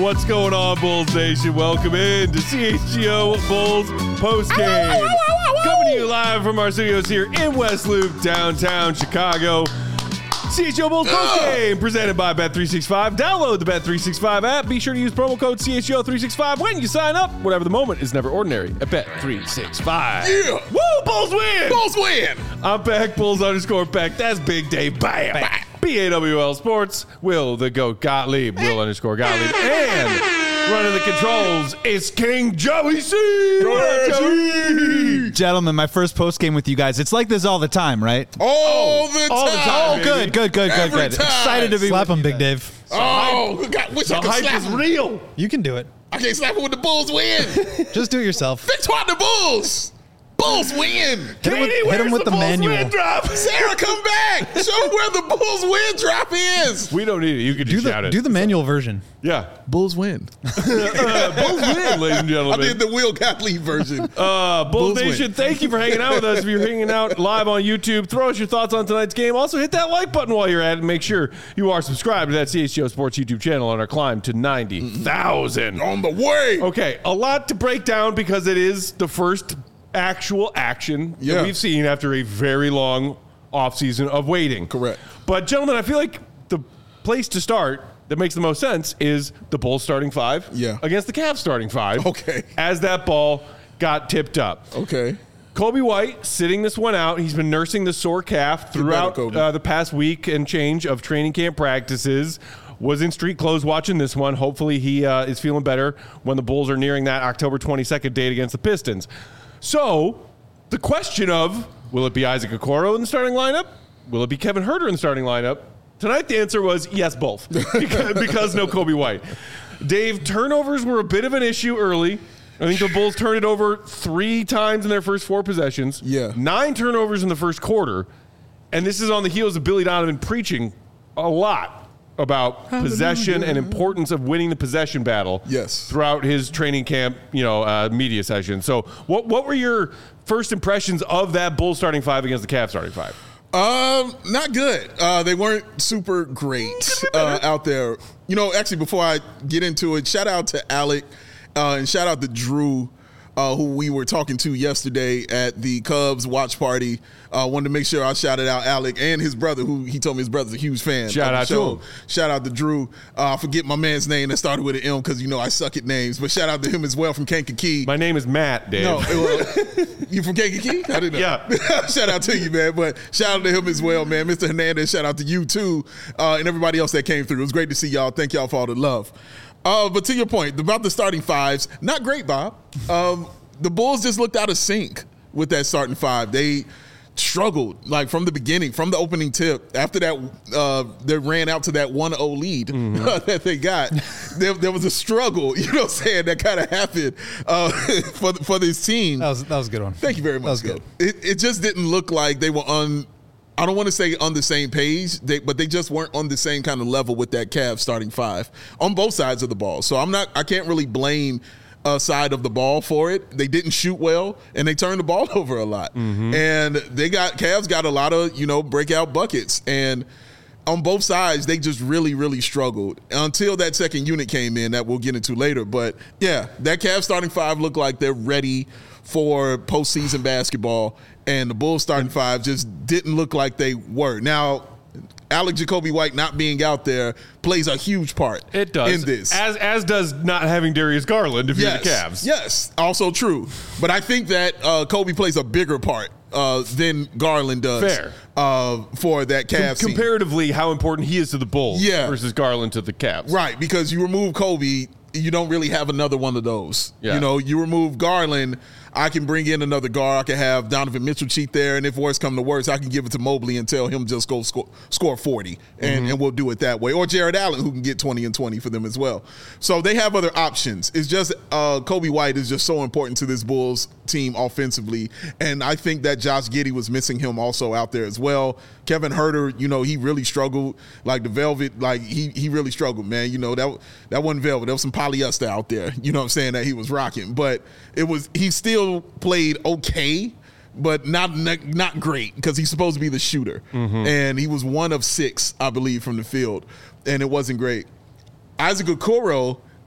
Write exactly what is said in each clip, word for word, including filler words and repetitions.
What's going on, Bulls Nation? Welcome in to C H G O Bulls postgame. Coming to you live from our studios here in West Loop, downtown Chicago. C H G O Bulls postgame presented by Bet three sixty-five. Download the Bet three sixty-five app. Be sure to use promo code C H G O three sixty-five when you sign up. Whatever the moment is never ordinary at Bet three sixty-five. Yeah. Woo, Bulls win. Bulls win. I'm Beck, Bulls underscore Beck. That's Big Dave. Bam. Bam. B A W L Sports, Will the GOAT Gottlieb, Will underscore Gottlieb, and running the controls is King Joey C. Joey. Gentlemen, my first post game with you guys. It's like this all the time, right? All the all time. the time. Oh, good, good, good, good, Every good. time. Excited to be Slap with him, you Big guys. Dave. Oh, God, wish The I could hype slap is him. real. You can do it. I can't slap him when the Bulls win. Just do it yourself. Victoire the Bulls. Bulls win. Hit him with, hit him with the, Bulls manual. win drop? Sarah, come back. Show where the Bulls win drop is. We don't need it. You can Do just shout the, it. do the manual version. yeah. Bulls win. Uh, Bulls win, ladies and I gentlemen. did the Will Gottlieb version. Uh, Bulls, Bulls Nation, win. thank you for hanging out with us. If you're hanging out live on YouTube, throw us your thoughts on tonight's game. Also, hit that like button while you're at it. And make sure you are subscribed to that C H G O Sports YouTube channel on our climb to ninety thousand. On the way. Okay, a lot to break down because it is the first actual action Yeah. that we've seen after a very long offseason of waiting. Correct. But, gentlemen, I feel like the place to start that makes the most sense is the Bulls starting five Yeah. against the Cavs starting five. Okay. As that ball got tipped up. Okay. Kobe White sitting this one out. He's been nursing the sore calf throughout Kobe. uh, the past week and change of training camp practices. Was in street clothes watching this one. Hopefully he uh, is feeling better when the Bulls are nearing that October twenty-second date against the Pistons. So the question of, will it be Isaac Okoro in the starting lineup? Will it be Kevin Huerter in the starting lineup? Tonight the answer was yes, both, because, because no Kobe White. Dave, turnovers were a bit of an issue early. I think the Bulls turned it over three times in their first four possessions. Yeah. Nine turnovers in the first quarter. And this is on the heels of Billy Donovan preaching a lot about possession and importance of winning the possession battle. Yes. Throughout his training camp, you know, uh, media session. So what what were your first impressions of that Bulls starting five against the Cavs starting five? Um, not good. Uh, they weren't super great uh, out there. You know, actually, before I get into it, shout out to Alec uh, and shout out to Drew, uh, who we were talking to yesterday at the Cubs watch party. Uh, wanted to make sure I shouted out Alec and his brother, who he told me his brother's a huge fan. Shout of the out to show. him. Shout out to Drew. Uh, I forget my man's name that started with an M because, you know, I suck at names. But shout out to him as well from Kankakee. My name is Matt, Dave. No, well, you from Kankakee? I didn't know. Yeah. Shout out to you, man. But shout out to him as well, man. Mister Hernandez, shout out to you too, uh, and everybody else that came through. It was great to see y'all. Thank y'all for all the love. Uh, but to your point about the starting fives, not great, Bob. Um, the Bulls just looked out of sync with that starting five. They struggled like from the beginning, from the opening tip. After that, uh, they ran out to that one oh lead Mm-hmm. that they got. There, there was a struggle, you know what I'm saying, that kind of happened uh, for for this team. That was that was a good one. Thank you very much. That was good. It, it just didn't look like they were on, I don't want to say on the same page, they, but they just weren't on the same kind of level with that Cavs starting five on both sides of the ball. So I'm not, I can't really blame a side of the ball for it. They didn't shoot well, and they turned the ball over a lot. Mm-hmm. And they got, Cavs got a lot of, you know, breakout buckets. And on both sides, they just really, really struggled until that second unit came in that we'll get into later. But, yeah, that Cavs starting five looked like they're ready for postseason basketball, and the Bulls starting five just didn't look like they were. Now, Alec Jacoby White not being out there plays a huge part It does. in this. As as does not having Darius Garland if yes, you're the Cavs. Yes, also true. But I think that uh, Kobe plays a bigger part uh, than Garland does. Fair. Uh, for that Cavs team. Comparatively, how important he is to the Bulls Yeah. versus Garland to the Cavs. Right, because you remove Kobe, you don't really have another one of those. Yeah. You know, you remove Garland, I can bring in another guard. I can have Donovan Mitchell cheat there, and if worse come to worse, I can give it to Mobley and tell him just go score, score forty, and, Mm-hmm. and we'll do it that way. Or Jared Allen, who can get twenty and twenty for them as well. So they have other options. It's just uh, Kobe White is just so important to this Bulls team offensively, and I think that Josh Giddey was missing him also out there as well. Kevin Huerter, you know, he really struggled. Like the Velvet, like he he really struggled, man. You know, that that wasn't Velvet. There was some polyester out there, you know what I'm saying, that he was rocking. But it was, he still played okay, but not not, not great because he's supposed to be the shooter. Mm-hmm. And he was one of six, I believe, from the field, and it wasn't great. Isaac Okoro, I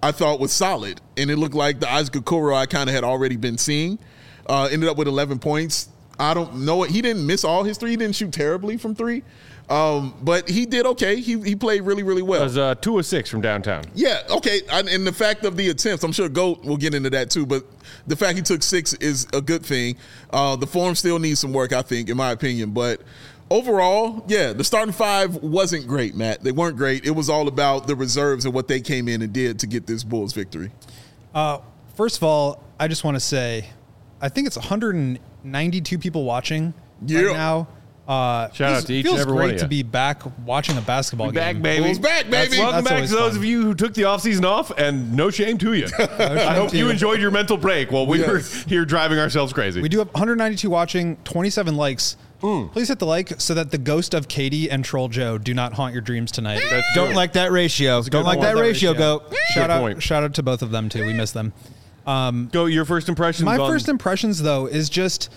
I thought was solid, and it looked like the Isaac Okoro I kind of had already been seeing. Uh, ended up with eleven points. I don't know it. He didn't miss all his three. He didn't shoot terribly from three, um, but he did okay. He he played really really well. It was uh, two of six from downtown. Yeah, okay. And and the fact of the attempts, I'm sure Goat will get into that too, but the fact he took six is a good thing. Uh, the form still needs some work, I think, in my opinion. But overall, yeah, the starting five wasn't great, Matt. They weren't great. It was all about the reserves and what they came in and did to get this Bulls victory. Uh, first of all, I just want to say, I think it's one hundred ninety-two people watching Yeah. right now. Uh, Shout out to each and feels every one of great you. to be back watching a basketball Back, game. baby. Bulls back, baby. Welcome That's back always to those fun. of you who took the offseason off, and no shame to you. I hope to you you. enjoyed your mental break while we Yes. were here driving ourselves crazy. We do have one hundred ninety-two watching, twenty-seven likes. Please hit the like so that the ghost of Katie and Troll Joe do not haunt your dreams tonight. That's Don't true. like that ratio. Don't like point. that ratio, go. Shout Good out, point. shout out to both of them too. We miss them. Go, your first impressions My on first impressions though is just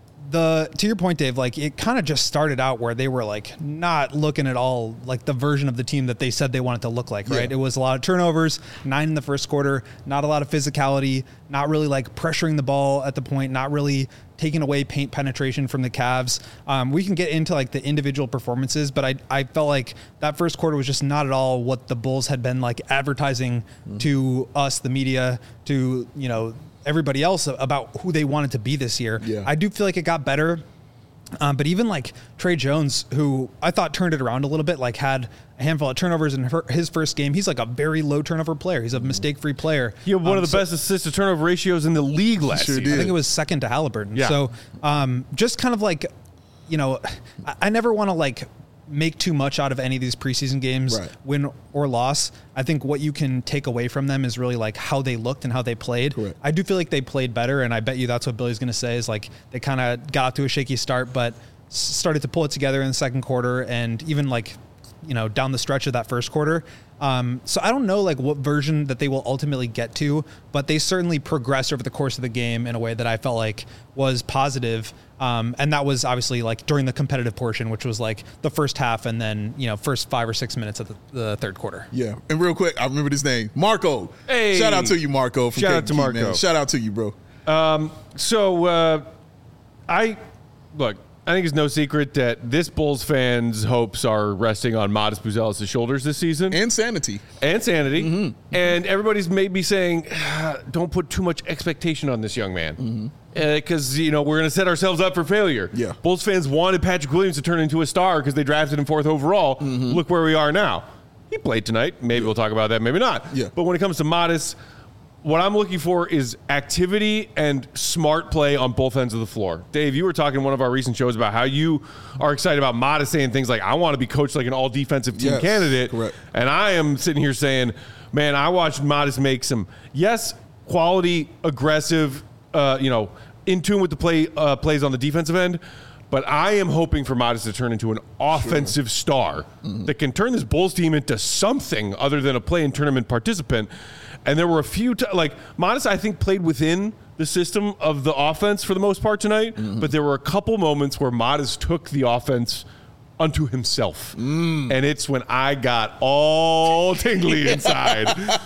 the to your point, Dave, like it kind of just started out where they were like not looking at all like the version of the team that they said they wanted to look like, right? Yeah. It was a lot of turnovers, nine in the first quarter, not a lot of physicality, not really like pressuring the ball at the point, not really taking away paint penetration from the Cavs. Um, we can get into like the individual performances, but I, I felt like that first quarter was just not at all what the Bulls had been like advertising Mm-hmm. to us, the media, to, you know, everybody else about who they wanted to be this year. Yeah. I do feel like it got better. Um, but even like Trey Jones, who I thought turned it around a little bit, like had a handful of turnovers in her, his first game. He's like a very low turnover player. He's a mistake-free player. He had one Um, of the so- best assist to turnover ratios in the league last Sure year. did. I think it was second to Halliburton. Yeah. So um, just kind of like, you know, I, I never want to like make too much out of any of these preseason games, Right. win or loss. I think what you can take away from them is really like how they looked and how they played. Correct. I do feel like they played better, and I bet you that's what Billy's going to say is like they kind of got off to a shaky start, but s- started to pull it together in the second quarter, and even like, you know, down the stretch of that first quarter. Um, so I don't know like what version that they will ultimately get to, but they certainly progressed over the course of the game in a way that I felt like was positive. Um, and that was obviously like during the competitive portion, which was like the first half and then, you know, first five or six minutes of the, the third quarter. Yeah, and real quick, I remember this name, Marco. Hey. Shout out to you, Marco. From Shout Cake out to Key, Marco. man. Shout out to you, bro. So, uh, I look. I think it's no secret that this Bulls fans' hopes are resting on Modest Buzelis' shoulders this season, And sanity. and sanity. Mm-hmm. And everybody's maybe saying, "Ah, "Don't put too much expectation on this young man," because you know we're going to set ourselves up for failure. Mm-hmm. Yeah. Bulls fans wanted Patrick Williams to turn into a star because they drafted him fourth overall. Mm-hmm. Look where we are now. He played tonight. Maybe we'll talk about that. Maybe not. Yeah. But when it comes to Modest, what I'm looking for is activity and smart play on both ends of the floor. Dave, you were talking in one of our recent shows about how you are excited about Modest saying things like, I want to be coached like an all-defensive team Yes, candidate. correct. And I am sitting here saying, man, I watched Modest make some, yes, quality, aggressive, uh, you know, in tune with the play uh, plays on the defensive end. But I am hoping for Modest to turn into an offensive star that can turn this Bulls team into something other than a play-in tournament participant. And there were a few, t- like, Modest, I think, played within the system of the offense for the most part tonight. But there were a couple moments where Modest took the offense unto himself. And it's when I got all tingly inside.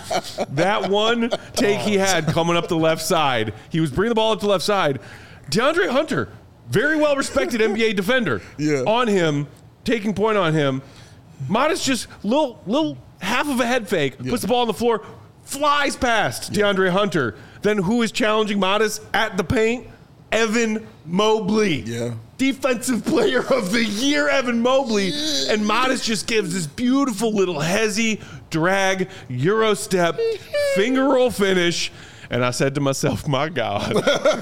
That one take he had coming up the left side, he was bringing the ball up the left side. DeAndre Hunter, very well respected N B A defender, Yeah. on him, taking point on him. Modest just little little half of a head fake, puts the ball on the floor, flies past DeAndre Hunter. Then who is challenging Modest at the paint? Evan Mobley. Yeah. Defensive player of the year, Evan Mobley. And Modest just gives this beautiful little hezzy, drag, Euro step, finger roll finish. And I said to myself, my God,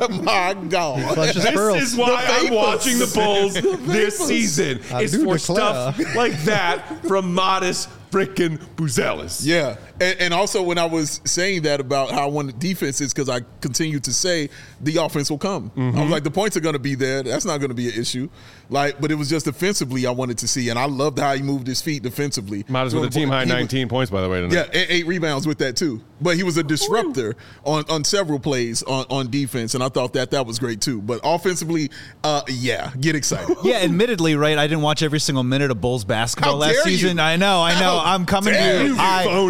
My God. Clutches this pearls. is why I'm vapors. watching the Bulls this vapors. season. I It's do for declare. stuff like that from Modest frickin' Buzelis. Yeah, and, and also when I was saying that about how I wanted defenses, because I continue to say the offense will come. Mm-hmm. I was like, the points are going to be there. That's not going to be an issue. Like, but it was just defensively I wanted to see, and I loved how he moved his feet defensively. Modest with a team high He was- nineteen points, by the way, tonight. Yeah, and eight rebounds with that too. But he was a disruptor on, on several plays on, on defense, and I thought that that was great too. But offensively, uh, yeah, get excited. Yeah, admittedly, right? I didn't watch every single minute of Bulls basketball How last dare you. season. I know, I know. How I'm coming to dare you. you, I, phony. my Oh,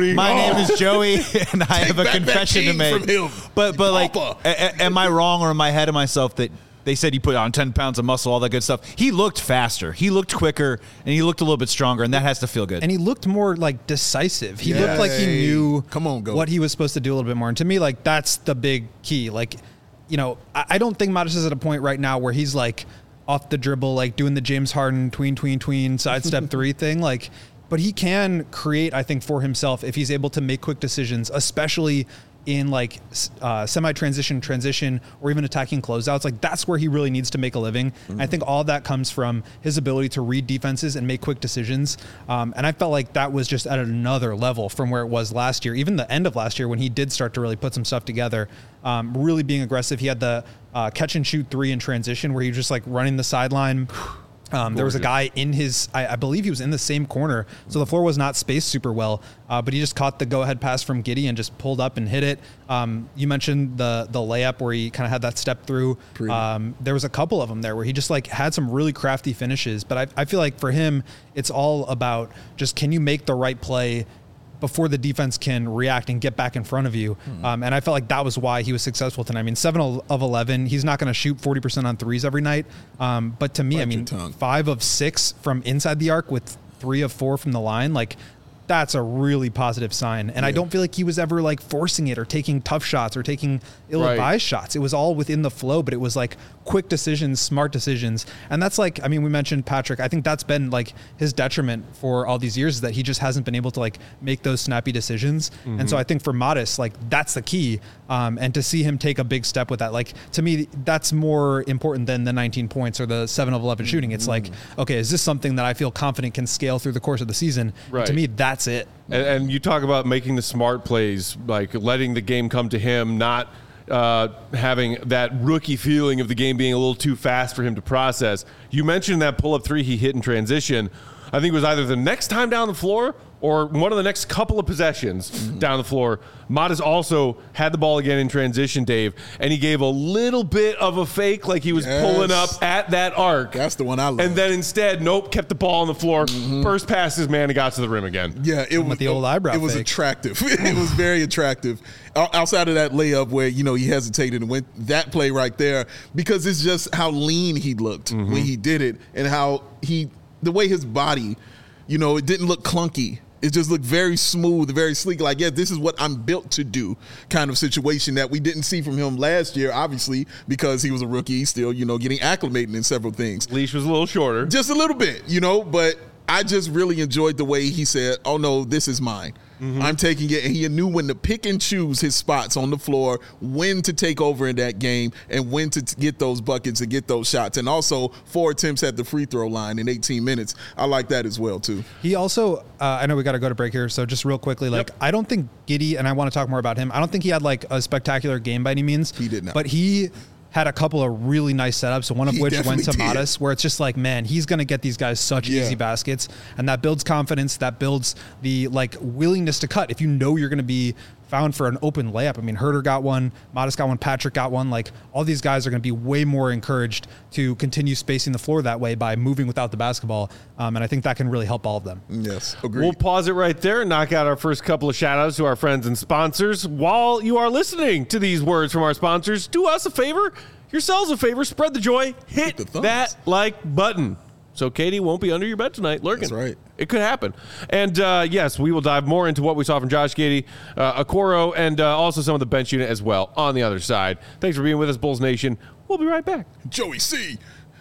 name is Joey, and I have a back that confession to king make. from him. But but like, Papa. a- a- am I wrong or am I ahead of myself that they said he put on ten pounds of muscle, all that good stuff? He looked faster, he looked quicker, and he looked a little bit stronger, and that has to feel good. And he looked more like decisive. He looked like he Yay. knew Come on, Goat. what he was supposed to do a little bit more. And to me, like that's the big key. Like, you know, I, I don't think Modest is at a point right now where he's like off the dribble, like doing the James Harden tween, tween, tween, sidestep three thing. Like, but he can create, I think, for himself if he's able to make quick decisions, especially in like uh, semi-transition, transition, or even attacking closeouts. Like that's where he really needs to make a living. Mm-hmm. I think all of that comes from his ability to read defenses and make quick decisions. Um, and I felt like that was just at another level from where it was last year, even the end of last year when he did start to really put some stuff together, um, really being aggressive. He had the uh, catch and shoot three in transition where he was just like running the sideline. Um, there was a guy in his, I, I believe he was in the same corner, so the floor was not spaced super well, uh, but he just caught the go-ahead pass from Giddey and just pulled up and hit it. Um, you mentioned the the layup where he kind of had that step through. Um, there was a couple of them there where he just like had some really crafty finishes, but I, I feel like for him, it's all about just can you make the right play before the defense can react and get back in front of you. Hmm. Um, and I felt like that was why he was successful tonight. I mean, seven of eleven, he's not going to shoot forty percent on threes every night. Um, but to me, Bite I mean, your tongue. five of six from inside the arc with three of four from the line, like that's a really positive sign. And yeah. I don't feel like he was ever like forcing it or taking tough shots or taking ill-advised right. shots. It was all within the flow, but it was like quick decisions, smart decisions. And that's like, I mean, we mentioned Patrick. I think that's been like his detriment for all these years is that he just hasn't been able to like make those snappy decisions. Mm-hmm. And so I think for Modest, like that's the key. Um, and to see him take a big step with that, like to me, that's more important than the nineteen points or the seven of eleven shooting. It's mm-hmm. like, okay, is this something that I feel confident can scale through the course of the season? Right. To me, that's it. And, and you talk about making the smart plays, like letting the game come to him, not uh, having that rookie feeling of the game being a little too fast for him to process. You mentioned that pull-up three he hit in transition. I think it was either the next time down the floor or one of the next couple of possessions mm-hmm. down the floor. Modest also had the ball again in transition, Dave, and he gave a little bit of a fake like he was yes. pulling up at that arc. That's the one I love. And then instead, nope, kept the ball on the floor, mm-hmm. burst past his man and got to the rim again. Yeah, it was the old eyebrow It was fake. attractive. It was very attractive. Outside of that layup where, you know, he hesitated and went that play right there, because it's just how lean he looked mm-hmm. when he did it and how he, the way his body, you know, it didn't look clunky. It just looked very smooth, very sleek. Like, yeah, this is what I'm built to do kind of situation that we didn't see from him last year, obviously, because he was a rookie. He's still, you know, getting acclimated in several things. Leash was a little shorter. Just a little bit, you know, but I just really enjoyed the way he said, oh, no, this is mine. Mm-hmm. I'm taking it. And he knew when to pick and choose his spots on the floor, when to take over in that game, and when to t- get those buckets and get those shots. And also four attempts at the free throw line in eighteen minutes. I like that as well, too. He also, uh, I know we got to go to break here, so just real quickly, like, yep. I don't think Giddey, and I want to talk more about him, I don't think he had, like, a spectacular game by any means. He did not. But he had a couple of really nice setups, one of he which went to did. Modest, where it's just like, man, he's going to get these guys such yeah. easy baskets, and that builds confidence, that builds the like willingness to cut. If you know you're going to be found for an open layup, I mean, Herter got one, Modest got one, Patrick got one, like all these guys are going to be way more encouraged to continue spacing the floor that way by moving without the basketball, um, and I think that can really help all of them. Yes, agreed. We'll pause it right there and knock out our first couple of shout-outs to our friends and sponsors. While you are listening to these words from our sponsors, do us a favor, yourselves a favor, spread the joy, hit, hit that like button. So Katie won't be under your bed tonight lurking. That's right. It could happen. And uh, yes, we will dive more into what we saw from Josh Giddey, uh, Okoro, and uh, also some of the bench unit as well on the other side. Thanks for being with us, Bulls Nation. We'll be right back. Joey C.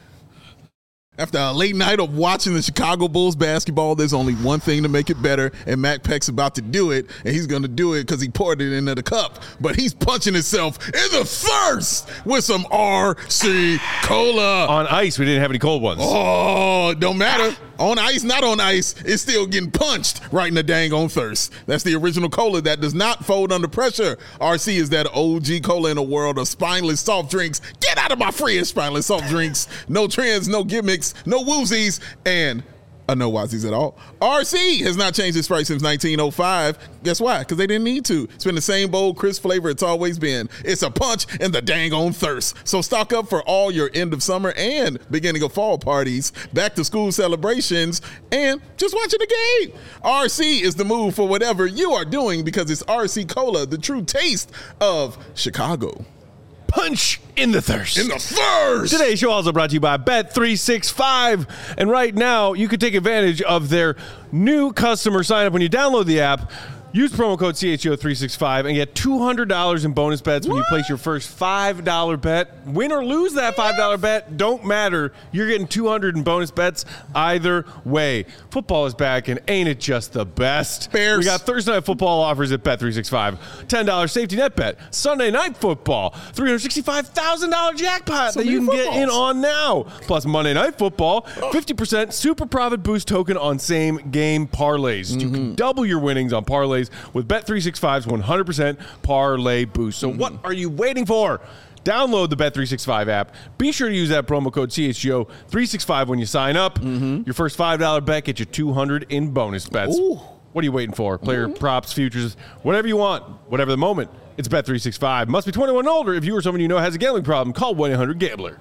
After a late night of watching the Chicago Bulls basketball, there's only one thing to make it better, and Mac Peck's about to do it, and he's going to do it because he poured it into the cup. But he's punching himself in the thirst with some R C Cola. On ice, we didn't have any cold ones. Oh, don't matter. On ice, not on ice, it's still getting punched right in the dang on thirst. That's the original cola that does not fold under pressure. R C is that O G cola in a world of spineless soft drinks. Get out of my fridge, spineless soft drinks. No trends, no gimmicks, no woozies, and Uh, no Wazzies at all. R C has not changed its price since nineteen oh five. Guess why? Because they didn't need to. It's been the same bold, crisp flavor it's always been. It's a punch in the dang on thirst. So stock up for all your end of summer and beginning of fall parties, back to school celebrations, and just watching the game. R C is the move for whatever you are doing because it's R C Cola, the true taste of Chicago. Punch in the thirst. In the thirst! Today's show also brought to you by Bet three sixty-five. And right now, you can take advantage of their new customer sign-up when you download the app. Use promo code C H O three sixty-five and get two hundred dollars in bonus bets when What? you place your first five dollar bet. Win or lose that five dollar bet, don't matter. You're getting two hundred dollars in bonus bets either way. Football is back, and ain't it just the best? Bears. We got Thursday Night Football offers at Bet three sixty-five. ten dollar safety net bet. Sunday Night Football. three hundred sixty-five thousand dollars jackpot So that you can many get in footballs. on now. Plus Monday Night Football. fifty percent super profit boost token on same game parlays. You can double your winnings on parlays with Bet three sixty-five's one hundred percent parlay boost. So what are you waiting for? Download the Bet three sixty-five app. Be sure to use that promo code C H G O three sixty-five when you sign up. Your first five dollar bet gets you two hundred dollars in bonus bets. Ooh. What are you waiting for? Player props, futures, whatever you want, whatever the moment. It's Bet three sixty-five. Must be twenty-one and older. If you or someone you know has a gambling problem, call one eight hundred gambler.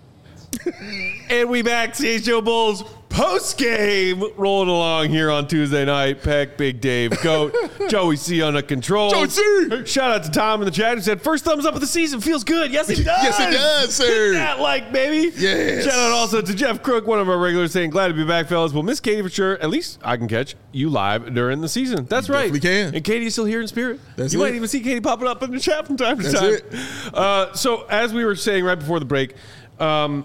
And we back, C H O Bulls post game, rolling along here on Tuesday night. Peck, Big Dave, Goat, Joey C under control. Joey C! Shout out to Tom in the chat who said first thumbs up of the season feels good. Yes, it does. Yes, it does, sir. Hit that like, baby. Yes. Shout out also to Jeff Crook, one of our regulars, saying glad to be back, fellas. We'll miss Katie for sure. At least I can catch you live during the season. That's You right. definitely can. And Katie is still here in spirit. That's you it. might even see Katie popping up in the chat from time to That's time. it. Uh, so as we were saying right before the break, um,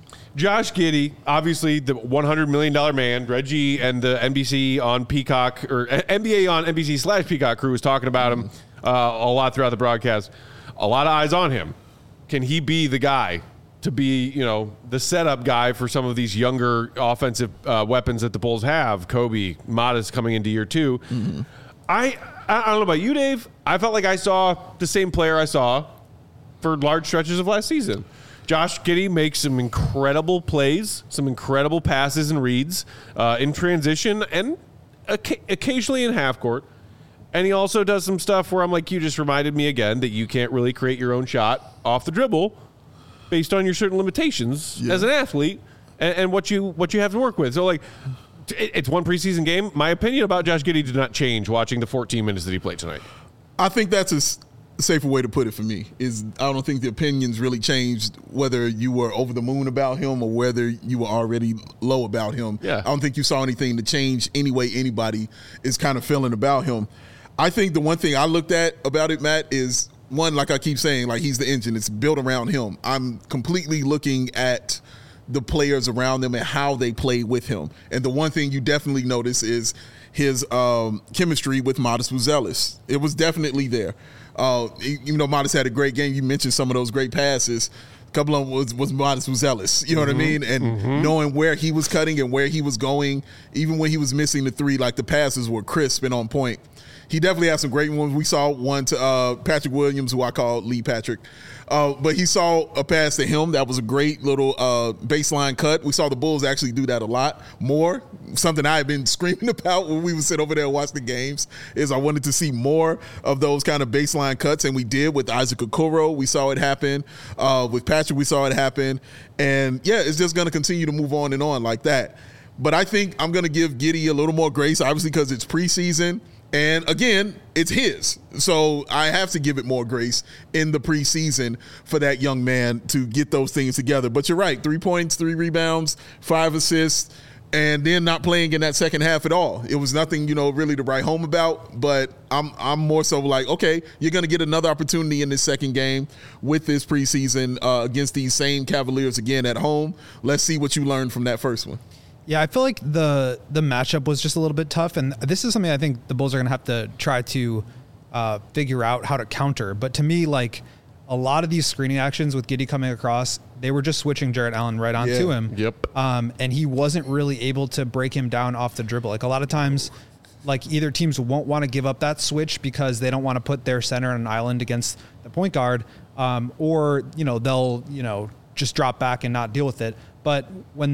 Josh Giddey, obviously the one hundred million dollars man, Reggie and the N B C on Peacock, or N B A on N B C slash Peacock crew was talking about him uh, a lot throughout the broadcast. A lot of eyes on him. Can he be the guy to be, you know, the setup guy for some of these younger offensive uh, weapons that the Bulls have? Kobe, Modest coming into year two. Mm-hmm. I, I don't know about you, Dave. I felt like I saw the same player I saw for large stretches of last season. Josh Giddey makes some incredible plays, some incredible passes and reads uh, in transition and oca- occasionally in half court. And he also does some stuff where I'm like, you just reminded me again that you can't really create your own shot off the dribble based on your certain limitations Yeah. as an athlete and, and what you what you have to work with. So, like, it, it's one preseason game. My opinion about Josh Giddey did not change watching the fourteen minutes that he played tonight. I think that's a s- safer way to put it for me. Is I don't think the opinions really changed whether you were over the moon about him or whether you were already low about him. Yeah. I don't think you saw anything to change any way anybody is kind of feeling about him. I think the one thing I looked at about it, Matt, is one, like I keep saying, like he's the engine. It's built around him. I'm completely looking at the players around them and how they play with him. And the one thing you definitely notice is his um, chemistry with Modest Buzelis. It was definitely there. Uh, even though Modest had a great game, you mentioned some of those great passes. A couple of them was, was Modest Buzelis. You know what I mean? And Mm-hmm. knowing where he was cutting and where he was going, even when he was missing the three, like the passes were crisp and on point. He definitely had some great ones. We saw one to uh, Patrick Williams, who I call Lee Patrick. Uh, but he saw a pass to him. That was a great little uh, baseline cut. We saw the Bulls actually do that a lot more. Something I had been screaming about when we would sit over there and watch the games is I wanted to see more of those kind of baseline cuts, and we did with Isaac Okoro. We saw it happen. Uh, with Patrick, we saw it happen. And, yeah, it's just going to continue to move on and on like that. But I think I'm going to give Giddey a little more grace, obviously because it's preseason. And again, it's his. So I have to give it more grace in the preseason for that young man to get those things together. But you're right. Three points, three rebounds, five assists, and then not playing in that second half at all. It was nothing, you know, really to write home about. But I'm I'm more so like, okay, you're going to get another opportunity in this second game with this preseason uh, against these same Cavaliers again at home. Let's see what you learned from that first one. Yeah, I feel like the the matchup was just a little bit tough, and this is something I think the Bulls are going to have to try to uh, figure out how to counter. But to me, like a lot of these screening actions with Giddey coming across, they were just switching Jarrett Allen right onto Yeah. him. Yep. Um, and he wasn't really able to break him down off the dribble. Like a lot of times, like either teams won't want to give up that switch because they don't want to put their center on an island against the point guard, um, or you know they'll you know just drop back and not deal with it. But when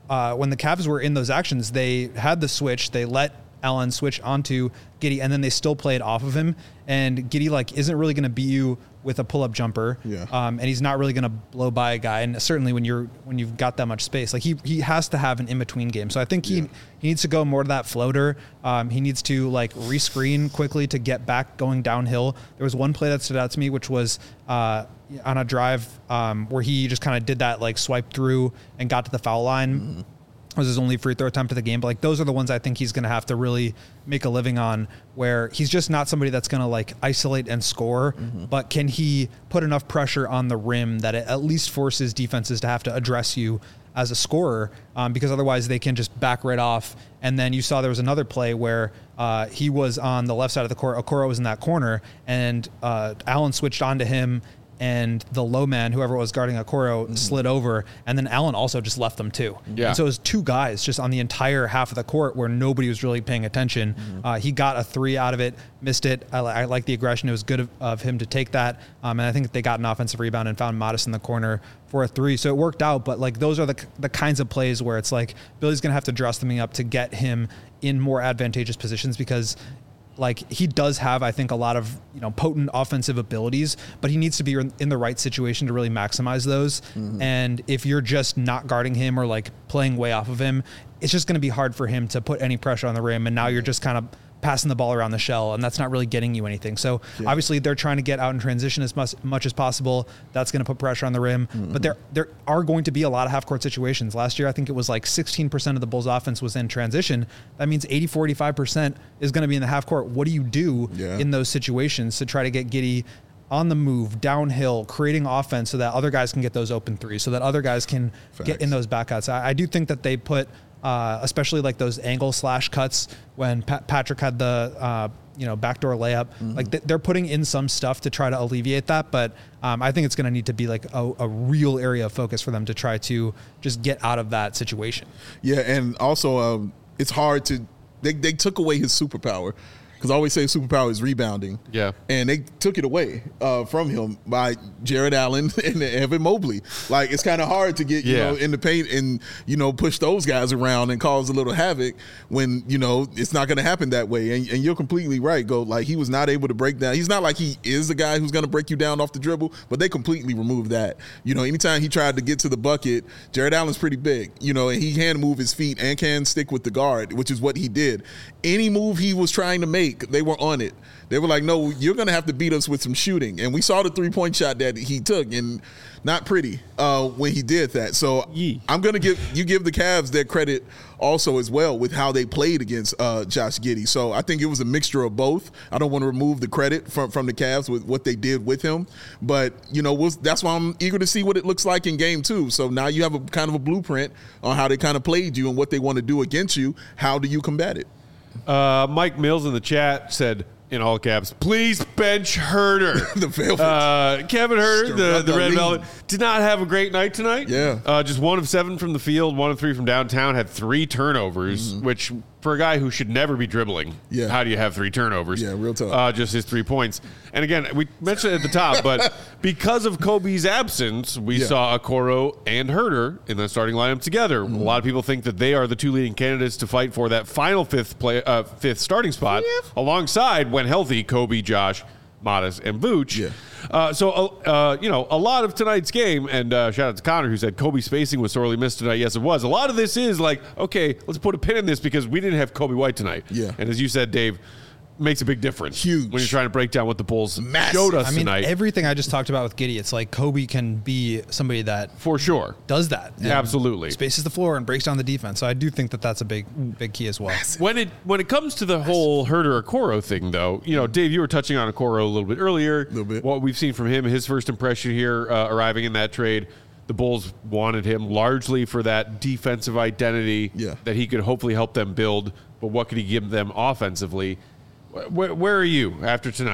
uh, when the Cavs were in those actions, they had the switch. They let Allen switch onto Giddey, and then they still played off of him. And Giddey like isn't really going to beat you with a pull-up jumper, yeah. um, and he's not really going to blow by a guy. And certainly when you're when you've got that much space, like he he has to have an in-between game. So I think he yeah. he needs to go more to that floater. Um, he needs to like rescreen quickly to get back going downhill. There was one play that stood out to me, which was uh, on a drive um, where he just kind of did that like swipe through and got to the foul line. Mm-hmm. Was his only free throw attempt of the game. But like those are the ones I think he's going to have to really make a living on, where he's just not somebody that's going to like isolate and score, mm-hmm. but can he put enough pressure on the rim that it at least forces defenses to have to address you as a scorer, um, because otherwise they can just back right off. And then you saw there was another play where uh, he was on the left side of the court, Okoro was in that corner, and uh, Allen switched onto him, and the low man, whoever was guarding Okoro, mm-hmm. slid over, and then Allen also just left them too. Yeah. And so it was two guys just on the entire half of the court where nobody was really paying attention. Mm-hmm. Uh, he got a three out of it, missed it. I, I like the aggression. It was good of, of him to take that. Um, and I think they got an offensive rebound and found Modest in the corner for a three. So it worked out, but like those are the the kinds of plays where it's like Billy's going to have to dress them up to get him in more advantageous positions, because like he does have, I think, a lot of, you know, potent offensive abilities, but he needs to be in the right situation to really maximize those. Mm-hmm. And if you're just not guarding him or like playing way off of him, it's just going to be hard for him to put any pressure on the rim. And now you're just kind of passing the ball around the shell, and that's not really getting you anything. So yeah. obviously they're trying to get out in transition as much, much as possible. That's going to put pressure on the rim, mm-hmm. but there there are going to be a lot of half court situations. Last year, I think it was like sixteen percent of the Bulls offense was in transition. That means eighty-four, eighty-five percent is going to be in the half court. What do you do yeah. in those situations to try to get Giddey on the move, downhill, creating offense so that other guys can get those open threes, so that other guys can Facts. get in those back cuts? I, I do think that they put Uh, especially like those angle slash cuts when Pat- Patrick had the uh, you know backdoor layup. Mm-hmm. Like th- they're putting in some stuff to try to alleviate that, but um, I think it's going to need to be like a, a real area of focus for them to try to just get out of that situation. Yeah, and also um, it's hard to they they took away his superpower. Because I always say superpower is rebounding. Yeah. And they took it away uh, from him by Jared Allen and Evan Mobley. Like, it's kind of hard to get, you yeah. know, in the paint and, you know, push those guys around and cause a little havoc when, you know, it's not going to happen that way. And, and you're completely right, Go. Like, he was not able to break down. He's not like he is the guy who's going to break you down off the dribble, but they completely removed that. You know, anytime he tried to get to the bucket, Jared Allen's pretty big, you know, and he can move his feet and can stick with the guard, which is what he did. Any move he was trying to make, they were on it. They were like, no, you're going to have to beat us with some shooting. And we saw the three-point shot that he took, and not pretty uh, when he did that. So Yee. I'm going to give you give the Cavs their credit also as well with how they played against uh, Josh Giddey. So I think it was a mixture of both. I don't want to remove the credit from, from the Cavs with what they did with him. But, you know, we'll, that's why I'm eager to see what it looks like in game two. So now you have a kind of a blueprint on how they kind of played you and what they want to do against you. How do you combat it? Uh, Mike Mills in the chat said, in all caps, please bench Herder. the Velvet. Uh, Kevin Herder, the, the Red lead. Velvet, did not have a great night tonight. Yeah. Uh, just one of seven from the field, one of three from downtown, had three turnovers, mm-hmm. which for a guy who should never be dribbling, yeah. how do you have three turnovers? Yeah, real tough. Uh, just his three points. And again, we mentioned it at the top, but because of Kobe's absence, we yeah. saw Okoro and Herder in the starting lineup together. Mm-hmm. A lot of people think that they are the two leading candidates to fight for that final fifth play, uh, fifth starting spot, yeah. alongside, when healthy, Kobe, Josh, Modest, and Vooch. Yeah. Uh, so, uh, you know, a lot of tonight's game, and uh, shout out to Connor, who said Kobe's spacing was sorely missed tonight. Yes, it was. A lot of this is like, okay, let's put a pin in this because we didn't have Kobe White tonight. Yeah. And as you said, Dave, makes a big difference. Huge. When you're trying to break down what the Bulls Massive. showed us I mean, tonight. everything I just talked about with Giddey, it's like Kobe can be somebody that For sure. does that. Yeah, absolutely. Spaces the floor and breaks down the defense. So I do think that that's a big, big key as well. When it when it comes to the whole Herder Okoro thing, though, you know, Dave, you were touching on Okoro a little bit earlier. A little bit. What we've seen from him, his first impression here, uh, arriving in that trade, the Bulls wanted him largely for that defensive identity yeah. that he could hopefully help them build. But what could he give them offensively? Where, where are you after tonight?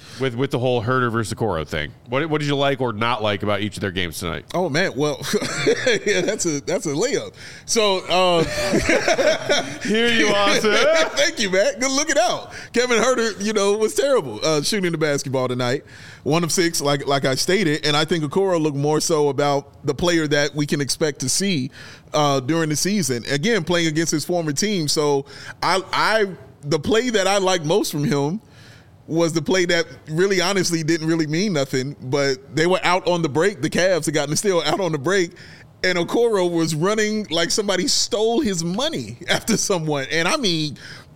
with with the whole Herder versus Okoro thing. What what did you like or not like about each of their games tonight? Oh man, well, yeah, that's a that's a layup. So um, here you are, sir. Thank you, man. Good looking out. Kevin Herter, you know, was terrible uh, shooting the basketball tonight. One of six, like like I stated, and I think Okoro looked more so about the player that we can expect to see uh, during the season. Again, playing against his former team. So I I the play that I liked most from him was the play that really honestly didn't really mean nothing, but they were out on the break. The Cavs had gotten the steal out on the break, and Okoro was running like somebody stole his money after someone. And I mean,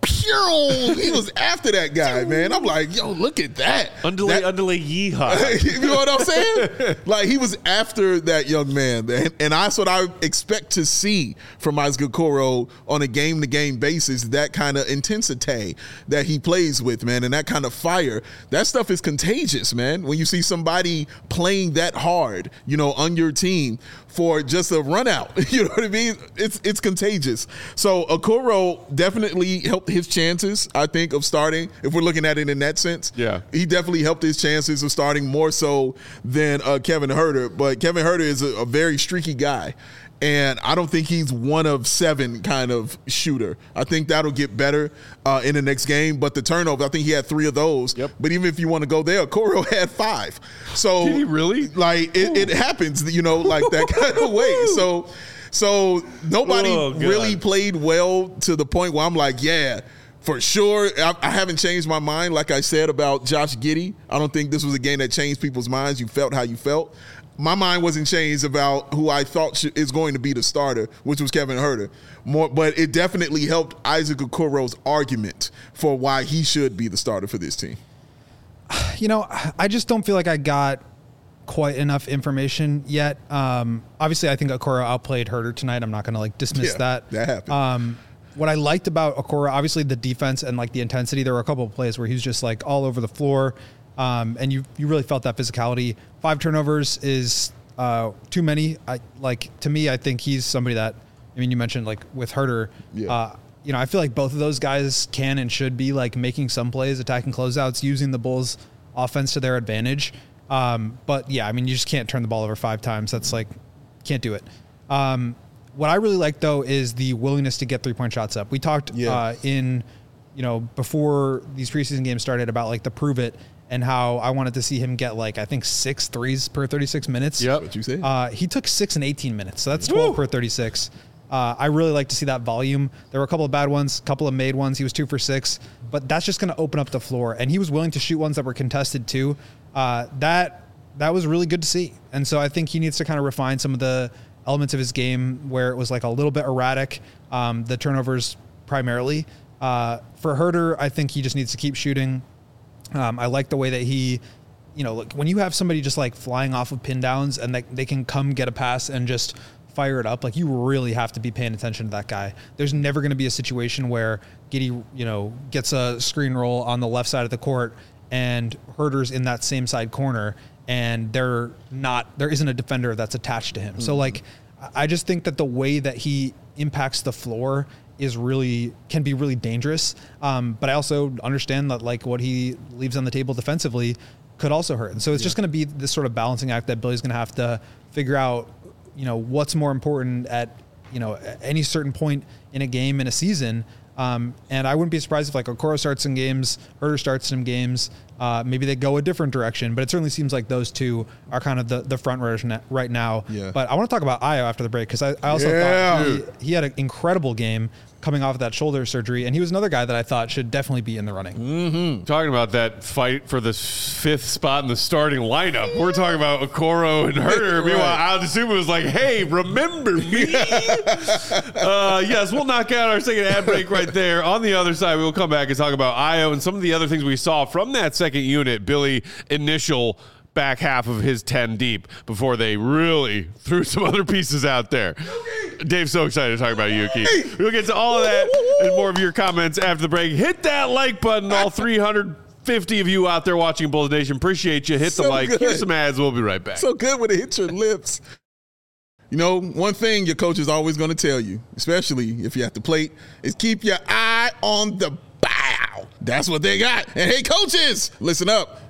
pew, he was after that guy, man. I'm like, yo, look at that. Underlay, that, underlay, yeehaw. You know what I'm saying? Like, he was after that young man. And, and that's what I expect to see from Isaac Okoro on a game-to-game basis, that kind of intensity that he plays with, man, and that kind of fire. That stuff is contagious, man. When you see somebody playing that hard, you know, on your team for just a run out, you know what I mean? It's it's contagious. So Okoro definitely helped his chances, I think, of starting, if we're looking at it in that sense. Yeah. He definitely helped his chances of starting more so than uh, Kevin Herter. But Kevin Herter is a, a very streaky guy. And I don't think he's one of seven kind of shooter. I think that'll get better uh, in the next game. But the turnover, I think he had three of those. Yep. But even if you want to go there, Okoro had five. So Did he really? Like it, it happens, you know, like that kind of way. So, so nobody Oh, God. really played well to the point where I'm like, yeah. For sure, I, I haven't changed my mind, like I said, about Josh Giddey. I don't think this was a game that changed people's minds. You felt how you felt. My mind wasn't changed about who I thought sh- is going to be the starter, which was Kevin Herter. More, but it definitely helped Isaac Okoro's argument for why he should be the starter for this team. You know, I just don't feel like I got quite enough information yet. Um, obviously, I think Okoro outplayed Herter tonight. I'm not going to like dismiss Yeah, that. that happened. Um, what I liked about Okoro, obviously the defense and like the intensity. There were a couple of plays where he was just like all over the floor, um, and you you really felt that physicality. Five turnovers is uh, too many. I like to me. I think he's somebody that. I mean, you mentioned like with Herter. Yeah. Uh, you know, I feel like both of those guys can and should be like making some plays, attacking closeouts, using the Bulls' offense to their advantage. Um, but yeah, I mean, you just can't turn the ball over five times. That's like, can't do it. Um, what I really like though is the willingness to get three point shots up. We talked Yeah. uh, in, you know, before these preseason games started about like the prove it and how I wanted to see him get like, I think six threes per thirty-six minutes. Yep. What you said? Uh, he took six and eighteen minutes. So that's twelve Woo. per thirty-six. Uh, I really like to see that volume. There were a couple of bad ones, a couple of made ones. He was two for six, but that's just going to open up the floor. And he was willing to shoot ones that were contested too. Uh, that that was really good to see. And so I think he needs to kind of refine some of the elements of his game where it was like a little bit erratic, um, the turnovers primarily. Uh, for Herter, I think he just needs to keep shooting. Um, I like the way that he, you know, look, when you have somebody just like flying off of pin downs and they, they can come get a pass and just fire it up, like you really have to be paying attention to that guy. There's never going to be a situation where Giddey, you know, gets a screen roll on the left side of the court and Herter's in that same side corner and they're not, there isn't a defender that's attached to him. Mm-hmm. So like, I just think that the way that he impacts the floor is really, can be really dangerous. Um, but I also understand that like what he leaves on the table defensively could also hurt. And so it's yeah. just going to be this sort of balancing act that Billy's going to have to figure out, you know, what's more important at, you know, at any certain point in a game, in a season. Um, and I wouldn't be surprised if like Okoro starts some games, Herter starts some games, uh, maybe they go a different direction, but it certainly seems like those two are kind of the, the front runners right now. Yeah. But I want to talk about Ayo after the break. Cause I, I also yeah. thought he, he had an incredible game coming off of that shoulder surgery. And he was another guy that I thought should definitely be in the running. Mm-hmm. Talking about that fight for the fifth spot in the starting lineup. We're talking about Okoro and Herter. Right. Meanwhile, Aldisuma was like, hey, remember me? uh, yes, we'll knock out our second ad break right there. On the other side, we will come back and talk about Ayo and some of the other things we saw from that second unit. Billy, initial back half of his ten deep before they really threw some other pieces out there. Dave's so excited to talk about Yuki. We'll get to all of that and more of your comments after the break. Hit that like button, all three hundred fifty of you out there watching Bulls Nation. Appreciate you. Hit the So like. good. Here's some ads. We'll be right back. So good when it hits your lips. You know, one thing your coach is always going to tell you, especially if you're at the plate, is keep your eye on the bow. That's what they got. And hey, coaches, listen up.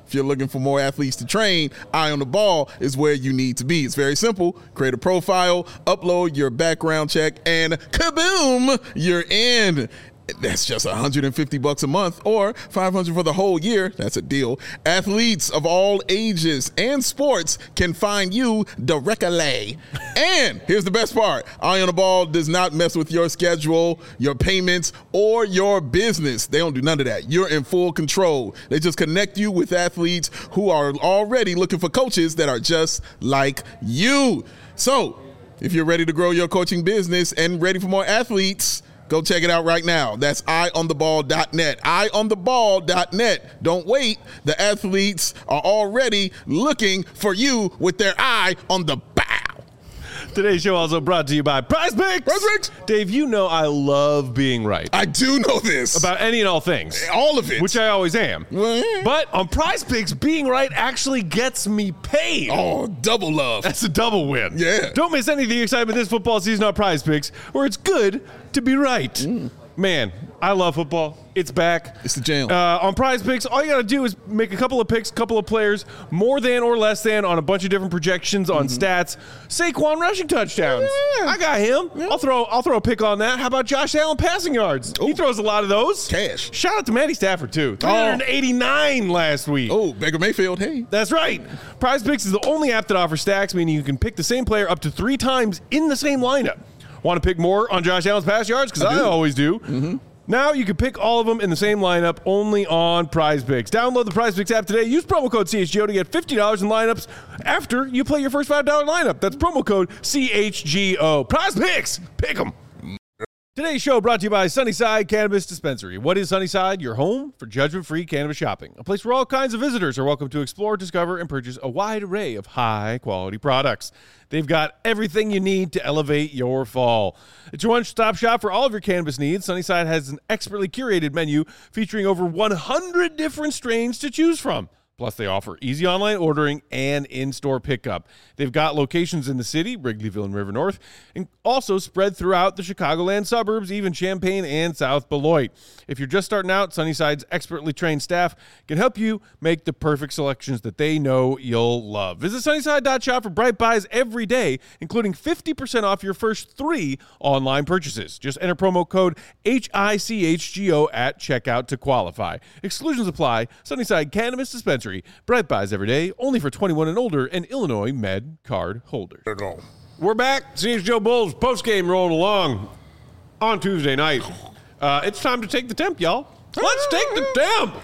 If you're looking for more athletes to train, Eye on the Ball is where you need to be. It's very simple. Create a profile, upload your background check, and kaboom, you're in. That's just one hundred fifty bucks a month or five hundred for the whole year. That's a deal. Athletes of all ages and sports can find you directly. And here's the best part. Eye on the Ball does not mess with your schedule, your payments, or your business. They don't do none of that. You're in full control. They just connect you with athletes who are already looking for coaches that are just like you. So if you're ready to grow your coaching business and ready for more athletes, go check it out right now. That's eye on the ball dot net. eye on the ball dot net. Don't wait. The athletes are already looking for you with their eye on the bow. Today's show also brought to you by Prize Picks. Prize Picks. Dave, you know I love being right. I do know this. About any and all things. All of it. Which I always am. But on Prize Picks, being right actually gets me paid. Oh, double love. That's a double win. Yeah. Don't miss any of the excitement this football season on Prize Picks, where it's good to be right. Mm. Man, I love football. It's back. It's the jam. Uh, on Prize Picks, all you got to do is make a couple of picks, couple of players, more than or less than on a bunch of different projections on mm-hmm. stats. Saquon rushing touchdowns. Yeah. I got him. Yeah. I'll throw I'll throw a pick on that. How about Josh Allen passing yards? Ooh. He throws a lot of those. Cash. Shout out to Matty Stafford, too. three hundred eighty-nine oh. last week. Oh, Baker Mayfield, hey. That's right. Prize Picks is the only app that offers stacks, meaning you can pick the same player up to three times in the same lineup. Want to pick more on Josh Allen's pass yards? Because I, I always do. Mm-hmm. Now you can pick all of them in the same lineup only on Prize Picks. Download the Prize Picks app today. Use promo code C H G O to get fifty dollars in lineups after you play your first five dollar lineup. That's promo code C H G O. Prize Picks. Pick them. Today's show brought to you by Sunnyside Cannabis Dispensary. What is Sunnyside? Your home for judgment-free cannabis shopping. A place where all kinds of visitors are welcome to explore, discover, and purchase a wide array of high-quality products. They've got everything you need to elevate your fall. It's your one-stop shop for all of your cannabis needs. Sunnyside has an expertly curated menu featuring over one hundred different strains to choose from. Plus, they offer easy online ordering and in-store pickup. They've got locations in the city, Wrigleyville and River North, and also spread throughout the Chicagoland suburbs, even Champaign and South Beloit. If you're just starting out, Sunnyside's expertly trained staff can help you make the perfect selections that they know you'll love. Visit Sunnyside dot shop for bright buys every day, including fifty percent off your first three online purchases. Just enter promo code H I C H G O at checkout to qualify. Exclusions apply. Sunnyside Cannabis Dispensary. Bright buys every day, only for twenty-one and older and Illinois Med card holders. We're back. C H G O Bulls postgame rolling along on Tuesday night. Uh, it's time to take the temp, y'all. Let's take the temp.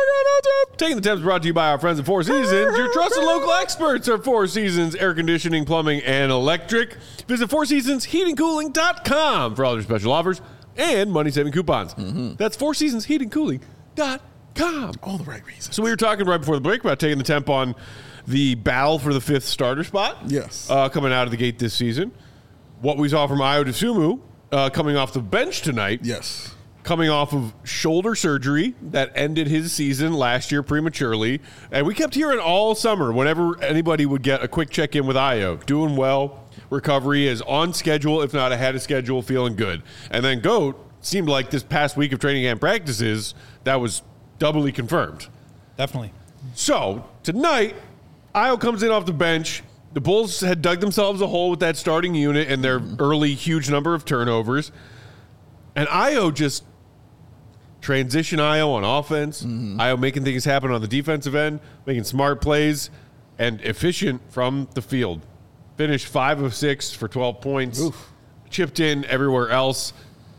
Taking the Temps is brought to you by our friends at Four Seasons, your trusted local experts at Four Seasons Air Conditioning, Plumbing, and Electric. Visit four seasons heating cooling dot com for all their special offers and money-saving coupons. Mm-hmm. That's four seasons heating cooling dot com. All the right reasons. So we were talking right before the break about taking the temp on the battle for the fifth starter spot. Yes. Uh, coming out of the gate this season. What we saw from Ayo Dosunmu uh, coming off the bench tonight. Yes. Coming off of shoulder surgery that ended his season last year prematurely. And we kept hearing all summer whenever anybody would get a quick check-in with Ayo. Doing well. Recovery is on schedule, if not ahead of schedule, feeling good. And then Goat seemed like this past week of training camp practices, that was doubly confirmed. Definitely. So, tonight, Ayo comes in off the bench. The Bulls had dug themselves a hole with that starting unit and their mm-hmm. early huge number of turnovers. And Ayo just transition Ayo on offense. Mm-hmm. Ayo making things happen on the defensive end, making smart plays, and efficient from the field. Finished five of six for twelve points. Oof. Chipped in everywhere else.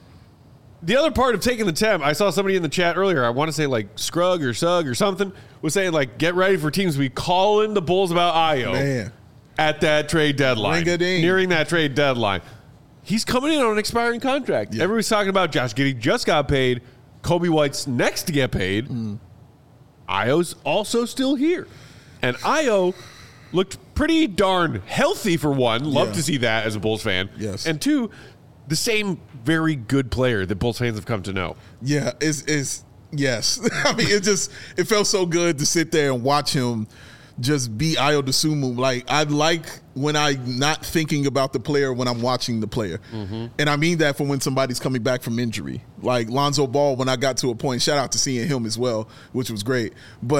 The other part of taking the temp, I saw somebody in the chat earlier, I want to say like Scrug or Sug or something, was saying like, get ready for teams to be calling the Bulls about Ayo Man. at that trade deadline. Ring-a-ding. Nearing that trade deadline. He's coming in on an expiring contract. Yeah. Everybody's talking about Josh Giddey just got paid. Kobe White's next to get paid. Mm. Ayo's also still here. And Ayo looked pretty darn healthy for one. Love yeah. to see that as a Bulls fan. Yes. And two, the same very good player that Bulls fans have come to know. Yeah, it's, it's yes. I mean, it just it felt so good to sit there and watch him just be Ayo Dosunmu. Like, I like when I'm not thinking about the player when I'm watching the player. Mm-hmm. And I mean that for when somebody's coming back from injury. Like Lonzo Ball, when I got to a point, shout out to seeing him as well, which was great. But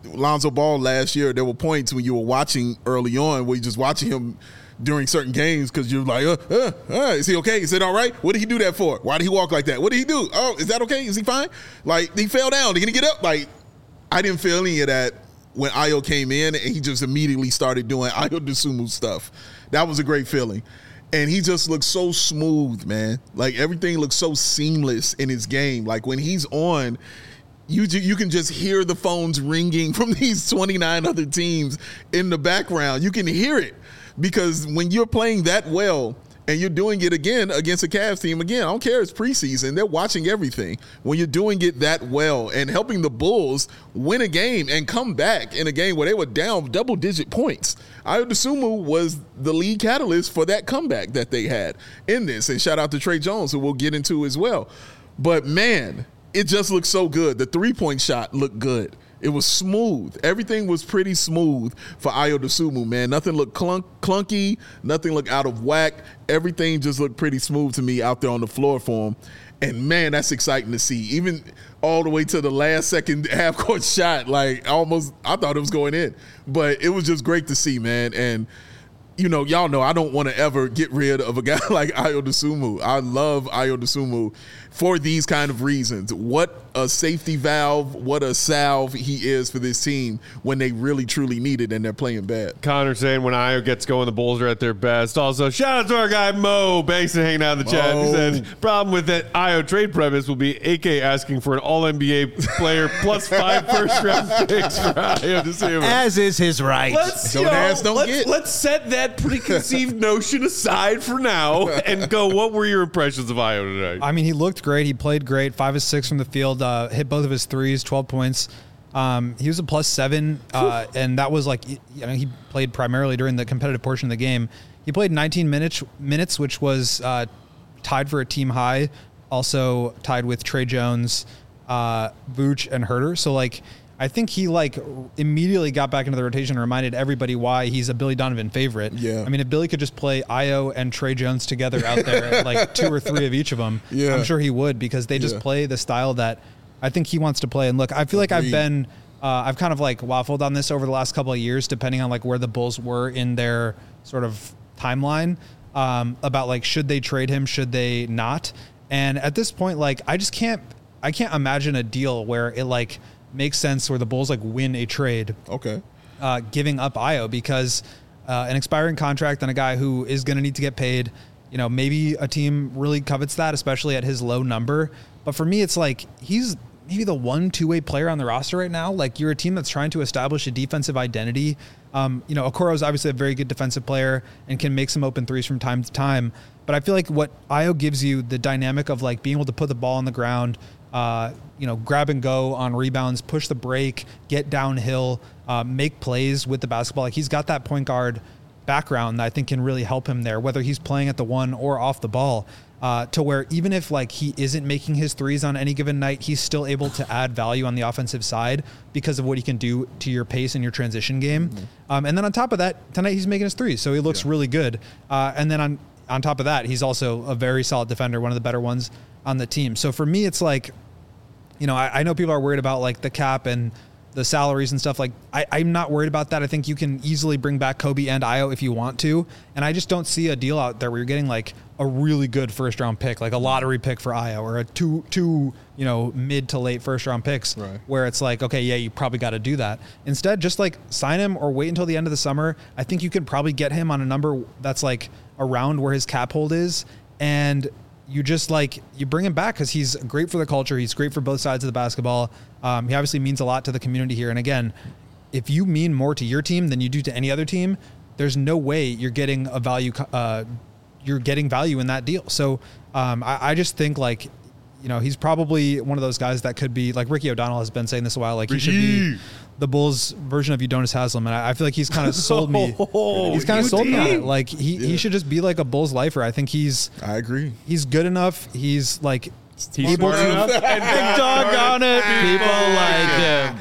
Lonzo Ball last year, there were points when you were watching early on where you're just watching him during certain games because you're like, uh, uh, uh, is he okay? Is it all right? What did he do that for? Why did he walk like that? What did he do? Oh, is that okay? Is he fine? Like, he fell down. Did he get up? Like, I didn't feel any of that when Ayo came in and he just immediately started doing Ayo Dosunmu stuff. That was a great feeling. And he just looks so smooth, man. Like, everything looks so seamless in his game. Like, when he's on, you you can just hear the phones ringing from these twenty-nine other teams in the background. You can hear it. Because when you're playing that well and you're doing it again against a Cavs team, again, I don't care, it's preseason, they're watching everything. When you're doing it that well and helping the Bulls win a game and come back in a game where they were down double-digit points, Ayo Dosunmu was the lead catalyst for that comeback that they had in this. And shout out to Trey Jones, who we'll get into as well. But, man, it just looked so good. The three-point shot looked good. It was smooth. Everything was pretty smooth for Ayo Dosunmu, man. Nothing looked clunk, clunky. Nothing looked out of whack. Everything just looked pretty smooth to me out there on the floor for him. And, man, that's exciting to see. Even all the way to the last second half-court shot, like, almost I thought it was going in. But it was just great to see, man. And, you know, y'all know I don't want to ever get rid of a guy like Ayo Dosunmu. I love Ayo Dosunmu for these kind of reasons. What a safety valve, what a salve he is for this team when they really, truly need it and they're playing bad. Connor saying when Ayo gets going, the Bulls are at their best. Also, shout out to our guy Mo Basin hanging out in the chat. He said, problem with that Ayo trade premise will be A K asking for an all N B A player plus five first-round picks for Ayo Dosunmu. As is his right. Let's, Don't you know, ask, don't let's, get. let's set that preconceived notion aside for now and go, what were your impressions of Ayo tonight? I mean, he looked great. He played great. Five of six from the field. Uh, hit both of his threes. Twelve points. Um, he was a plus seven, uh, and that was like, you know, he played primarily during the competitive portion of the game. He played nineteen minutes, minutes, which was uh, tied for a team high. Also tied with Trey Jones, uh, Vooch, and Herter. So like, I think he like immediately got back into the rotation and reminded everybody why he's a Billy Donovan favorite. Yeah. I mean, if Billy could just play Ayo and Trey Jones together out there, like two or three of each of them, Yeah. I'm sure he would, because they just Yeah. play the style that I think he wants to play. And look, I feel like I've Agreed. been, uh, I've kind of like waffled on this over the last couple of years, depending on like where the Bulls were in their sort of timeline, um, about like, should they trade him? Should they not? And at this point, like, I just can't, I can't imagine a deal where it like makes sense where the Bulls like win a trade, Okay. uh, giving up Ayo, because uh, an expiring contract and a guy who is going to need to get paid, you know, maybe a team really covets that, especially at his low number. But for me, it's like he's maybe the one two-way player on the roster right now. Like, you're a team that's trying to establish a defensive identity. Um, you know, Okoro is obviously a very good defensive player and can make some open threes from time to time. But I feel like what Ayo gives you, the dynamic of like being able to put the ball on the ground, uh, you know, grab and go on rebounds, push the break, get downhill, uh, make plays with the basketball. Like, he's got that point guard background that I think can really help him there, whether he's playing at the one or off the ball, uh, to where even if like he isn't making his threes on any given night, he's still able to add value on the offensive side because of what he can do to your pace and your transition game. Mm-hmm. Um, and then on top of that, tonight he's making his threes, so he looks yeah. really good. Uh, and then on on top of that, he's also a very solid defender, one of the better ones on the team. So for me, it's like, you know, I, I know people are worried about like the cap and the salaries and stuff. Like, I, I'm not worried about that. I think you can easily bring back Kobe and Ayo if you want to. And I just don't see a deal out there where you're getting like a really good first round pick, like a lottery pick for Ayo, or a two, two, you know, mid to late first round picks, right. where it's like, okay, yeah, you probably got to do that. Instead, just like sign him or wait until the end of the summer. I think you could probably get him on a number that's like around where his cap hold is. And you just like, you bring him back because he's great for the culture. He's great for both sides of the basketball. Um, he obviously means a lot to the community here. And again, if you mean more to your team than you do to any other team, there's no way you're getting a value, uh, you're getting value in that deal. So um, I, I just think like, you know, he's probably one of those guys that could be like Ricky O'Donnell has been saying this a while. Like, Ricky. He should be the Bulls version of Udonis Haslem. And I, I feel like he's kind of sold me. Oh, he's kind of sold me on it. Like he, yeah. he should just be like a Bulls lifer. I think he's, I agree. He's good enough. He's like, he's smart enough. And big dog on it. People like him.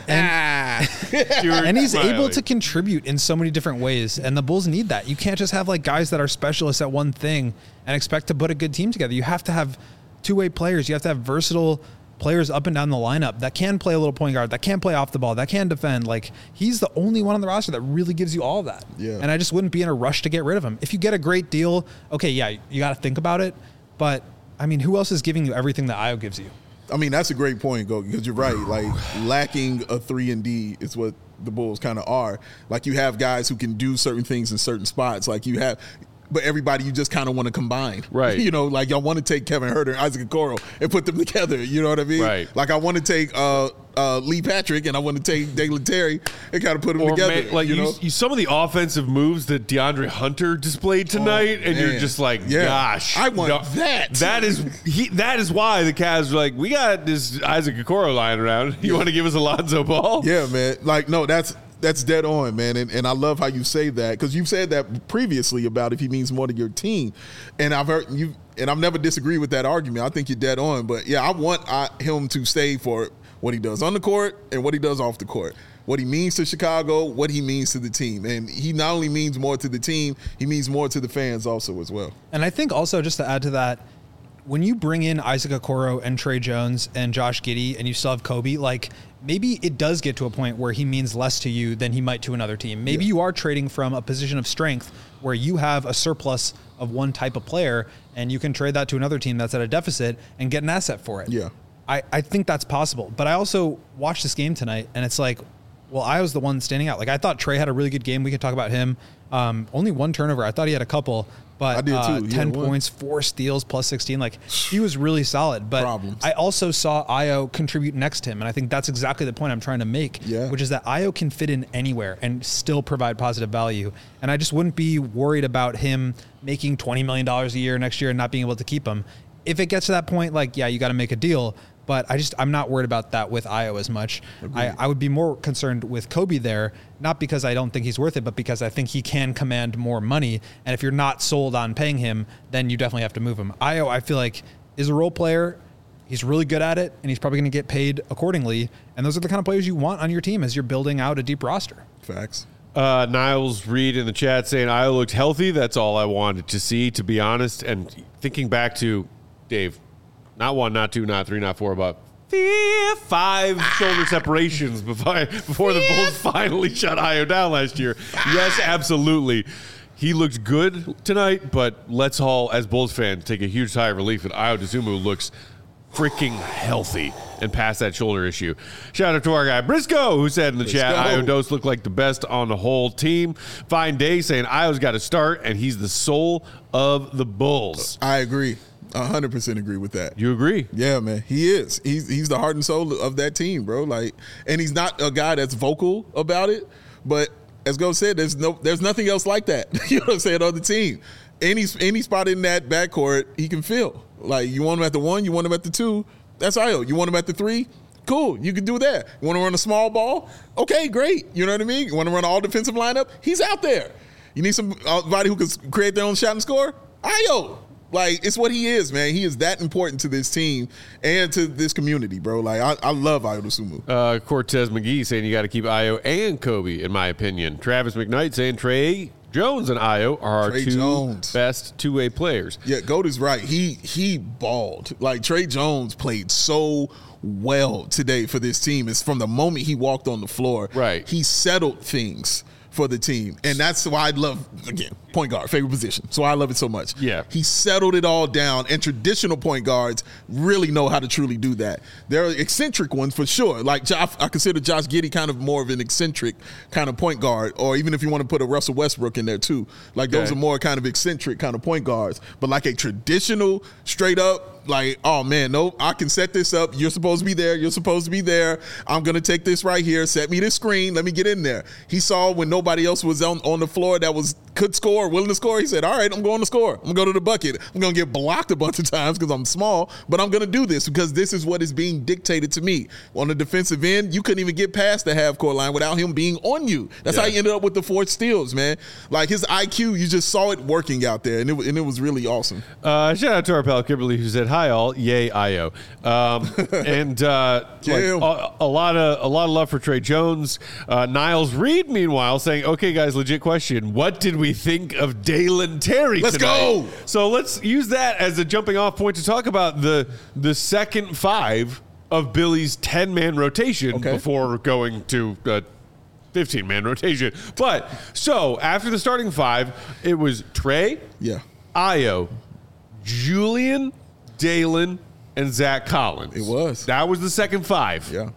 And, and he's able to contribute in so many different ways. And the Bulls need that. You can't just have like guys that are specialists at one thing and expect to put a good team together. You have to have two-way players. You have to have versatile players up and down the lineup that can play a little point guard, that can play off the ball, that can defend. Like, he's the only one on the roster that really gives you all of that. Yeah. And I just wouldn't be in a rush to get rid of him. If you get a great deal, okay, yeah, you got to think about it. But, I mean, who else is giving you everything that Ayo gives you? I mean, that's a great point, Go, because you're right. Like, lacking a three and D is what the Bulls kind of are. Like, you have guys who can do certain things in certain spots. Like, you have, but everybody you just kind of want to combine. Right. You know, like, y'all want to take Kevin Huerter and Isaac Okoro and put them together. You know what I mean? Right. Like, I want to take uh, uh, Lee Patrick and I want to take Dalen Terry and kind of put them Or together. man, like you you, know? you, some of the offensive moves that DeAndre Hunter displayed tonight, Oh, and you're man. just like, Yeah. gosh, I want no, that. That is he. That is why the Cavs are like, we got this Isaac Okoro lying around. You want to give us Alonzo Ball? Yeah, man. Like, no, that's that's dead on, man. And, and I love how you say that, because you've said that previously about if he means more to your team. And I've heard you, and I've never disagreed with that argument. I think you're dead on. But yeah, I want I, him to stay for what he does on the court and what he does off the court. What he means to Chicago, what he means to the team. And he not only means more to the team, he means more to the fans also as well. And I think also, just to add to that, when you bring in Isaac Okoro and Trey Jones and Josh Giddey and you still have Kobe, like, maybe it does get to a point where he means less to you than he might to another team. Maybe Yeah. you are trading from a position of strength where you have a surplus of one type of player and you can trade that to another team that's at a deficit and get an asset for it. Yeah. I, I think that's possible. But I also watched this game tonight and it's like, well, I was the one standing out. Like, I thought Trey had a really good game. We could talk about him. Um, only one turnover. I thought he had a couple, but I did uh, too. He ten had one. points, four steals, plus sixteen. Like, he was really solid. But Problems. I also saw Ayo contribute next to him, and I think that's exactly the point I'm trying to make, Yeah. which is that Ayo can fit in anywhere and still provide positive value. And I just wouldn't be worried about him making twenty million dollars a year next year and not being able to keep him. If it gets to that point, like, yeah, you got to make a deal. But I just, I'm not worried about that with Ayo as much. I, I would be more concerned with Kobe there, not because I don't think he's worth it, but because I think he can command more money. And if you're not sold on paying him, then you definitely have to move him. Ayo, I feel like, is a role player. He's really good at it, and he's probably going to get paid accordingly. And those are the kind of players you want on your team as you're building out a deep roster. Facts. Uh, Niles Reed in the chat saying, Ayo looked healthy. That's all I wanted to see, to be honest. And thinking back to Dave, not one, not two, not three, not four, but five shoulder separations before, before the Bulls finally shut Ayo down last year. Yes, absolutely. He looked good tonight, but let's all, as Bulls fans, take a huge sigh of relief that Ayo Dosunmu looks freaking healthy and past that shoulder issue. Shout out to our guy Briscoe, who said in the Briscoe. chat, Ayo Dos looked like the best on the whole team. Fine Day saying Ayo's got to start, and he's the soul of the Bulls. I agree. one hundred percent agree with that. You agree? Yeah, man, he is. He's he's the heart and soul of that team, bro. Like, and he's not a guy that's vocal about it, but as Go said, there's no, there's nothing else like that. You know what I'm saying, on the team. Any any spot in that backcourt, he can fill. Like, you want him at the one, you want him at the two. That's Ayo. You want him at the three? Cool, you can do that. You want to run a small ball? Okay, great. You know what I mean? You want to run an all defensive lineup? He's out there. You need somebody who can create their own shot and score? Ayo. Like, it's what he is, man. He is that important to this team and to this community, bro. Like, I, I love Ayo Dosunmu. Uh, Cortez McGee saying you got to keep Ayo and Kobe, in my opinion. Travis McKnight saying Trey Jones and Ayo are our Trey two Jones. best two-way players. Yeah, Goat is right. He he balled. Like, Trey Jones played so well today for this team. It's from the moment he walked on the floor. Right. He settled things for the team. And that's why I love, again, point guard, favorite position. So I love it so much. Yeah. He settled it all down, and traditional point guards really know how to truly do that. There are eccentric ones for sure. Like, Josh, I consider Josh Giddey kind of more of an eccentric kind of point guard, or even if you want to put a Russell Westbrook in there too. Like, those Okay. are more kind of eccentric kind of point guards. But like a traditional, straight up, like, oh man, no, I can set this up. You're supposed to be there. You're supposed to be there. I'm going to take this right here. Set me this screen. Let me get in there. He saw when nobody else was on, on the floor that was could score, willing to score. He said, all right, I'm going to score. I'm going to go to the bucket. I'm going to get blocked a bunch of times because I'm small, but I'm going to do this because this is what is being dictated to me. On the defensive end, you couldn't even get past the half-court line without him being on you. That's Yeah. how he ended up with the four steals, man. Like, his I Q, you just saw it working out there, and it, and it was really awesome. Uh, shout out to our pal Kimberly, who said, "Hi all, yay Ayo," um, and uh, like, Yeah. a, a lot of a lot of love for Trey Jones. Uh, Niles Reed, meanwhile, saying, "Okay, guys, legit question: what did we think of Dalen Terry Let's tonight?" go. So let's use that as a jumping off point to talk about the the second five of Billy's ten-man rotation Okay. before going to a fifteen-man rotation. But, so, after the starting five, it was Trey, Yeah. Ayo, Julian, Dalen, and Zach Collins. It was. That was the second five. Yeah.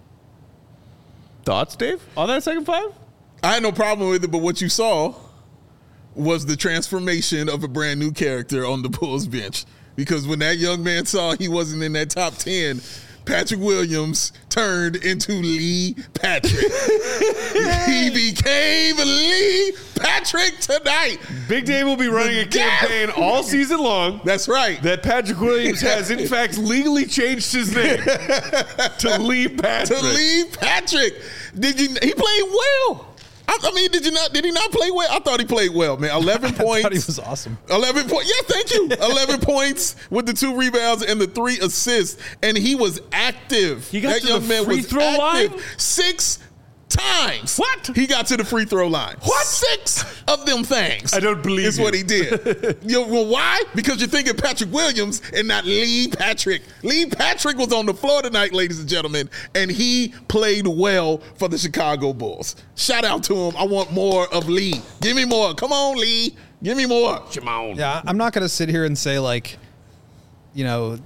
Thoughts, Dave, on that second five? I had no problem with it, but what you saw was the transformation of a brand new character on the Bulls bench. Because when that young man saw he wasn't in that top ten, Patrick Williams turned into Lee Patrick. He became Lee Patrick tonight. Big Dave will be running a campaign all season long. That's right. That Patrick Williams has, in fact, legally changed his name to Lee Patrick. To Lee Patrick. Did you? He played well. I, I mean, did you not? Did he not play well? I thought he played well, man. Eleven points. I thought he was awesome. Eleven points. Yeah, thank you. Eleven points with the two rebounds and the three assists, and he was active. He got that to young the man free was throw active. line? Six times. What? He got to the free throw line. What? Six of them things. I don't believe is you. what he did. You know, well, why? Because you're thinking Patrick Williams and not Lee Patrick. Lee Patrick was on the floor tonight, ladies and gentlemen, and he played well for the Chicago Bulls. Shout out to him. I want more of Lee. Give me more. Come on, Lee. Give me more. Come on. Yeah, I'm not going to sit here and say, like, you know,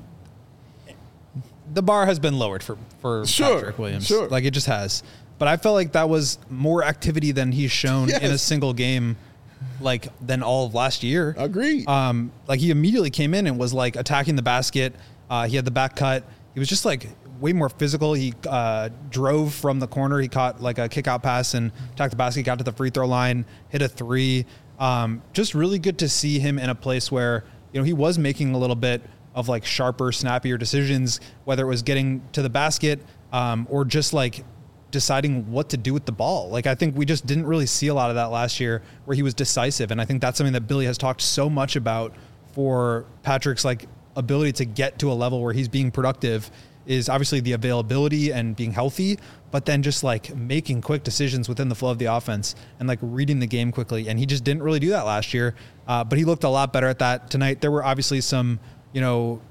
the bar has been lowered for, for Sure, Patrick Williams. sure. Like, it just has. But I felt like that was more activity than he's shown Yes. in a single game, like, than all of last year. Agreed. Um, like, he immediately came in and was, like, attacking the basket. Uh, he had the back cut. He was just, like, way more physical. He uh, drove from the corner. He caught, like, a kick-out pass and attacked the basket, got to the free throw line, hit a three. Um, just really good to see him in a place where, you know, he was making a little bit of, like, sharper, snappier decisions, whether it was getting to the basket um, or just, like, deciding what to do with the ball. Like, I think we just didn't really see a lot of that last year where he was decisive. And I think that's something that Billy has talked so much about for Patrick's, like, ability to get to a level where he's being productive is obviously the availability and being healthy, but then just, like, making quick decisions within the flow of the offense and, like, reading the game quickly. And he just didn't really do that last year. Uh, but he looked a lot better at that tonight. There were obviously some, you know,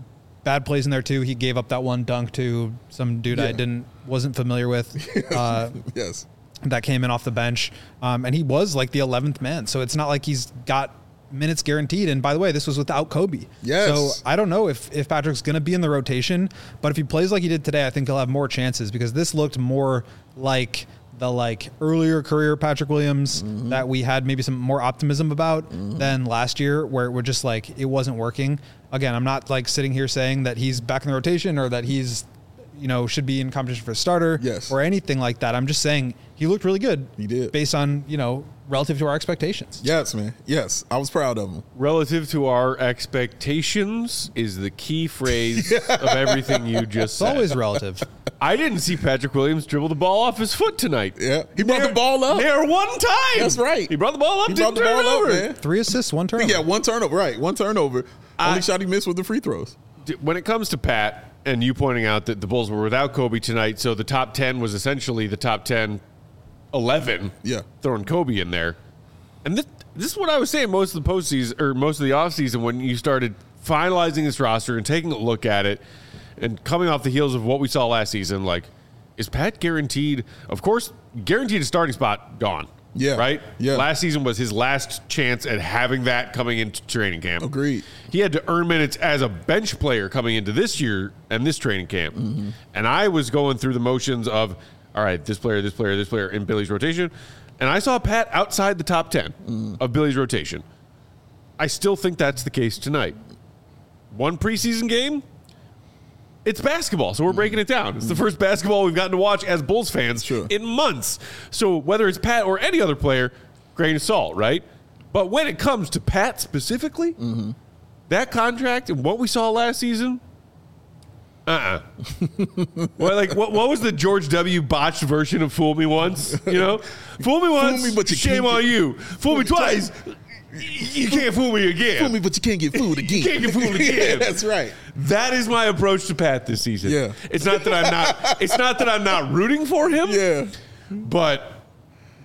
bad plays in there too. He gave up that one dunk to some dude Yeah. I didn't wasn't familiar with. Uh, Yes. that came in off the bench, um, and he was like the eleventh man. So it's not like he's got minutes guaranteed. And by the way, this was without Kobe. Yes. So I don't know if if Patrick's going to be in the rotation, but if he plays like he did today, I think he'll have more chances because this looked more like the like earlier career Patrick Williams Mm-hmm. that we had maybe some more optimism about than last year, where it were just like it wasn't working. Again, I'm not like sitting here saying that he's back in the rotation or that he's, you know, should be in competition for a starter Yes. or anything like that. I'm just saying he looked really good. He did. Based on, you know, relative to our expectations. Yes, man. Yes. I was proud of him. Relative to our expectations is the key phrase of everything you just It's said. always relative. I didn't see Patrick Williams dribble the ball off his foot tonight. Yeah. He brought Near- the ball up. There one time. That's right. He brought the ball up. He didn't brought the turn ball it over. up, man. Three assists, one turnover. Yeah, one turnover. Right. One turnover. I- Only shot he missed with the free throws. When it comes to Pat, and you pointing out that the Bulls were without Kobe tonight, so the top ten was essentially the top ten, eleven, Yeah. throwing Kobe in there. And this, this is what I was saying most of the postseason, or most of the offseason when you started finalizing this roster and taking a look at it and coming off the heels of what we saw last season, like, is Pat guaranteed, of course, guaranteed a starting spot gone. Yeah. Right? Yeah. Last season was his last chance at having that coming into training camp. Agreed. He had to earn minutes as a bench player coming into this year and this training camp. Mm-hmm. And I was going through the motions of, all right, this player, this player, this player in Billy's rotation. And I saw Pat outside the top ten Mm. of Billy's rotation. I still think that's the case tonight. One preseason game, it's basketball, so we're breaking it down. It's the first basketball we've gotten to watch as Bulls fans Sure. in months. So whether it's Pat or any other player, grain of salt, right? But when it comes to Pat specifically, that contract and what we saw last season, uh-uh. well, like, what, what was the George W. botched version of "Fool Me Once"? You know, "Fool me once, me, but you shame can't on get- you. Fool me twice, you can't fool me again." Fool me, but you can't get fooled again. can't get fooled again. Yeah, that's right. That is my approach to Pat this season. Yeah. It's not that I'm not. It's not that I'm not rooting for him. Yeah. But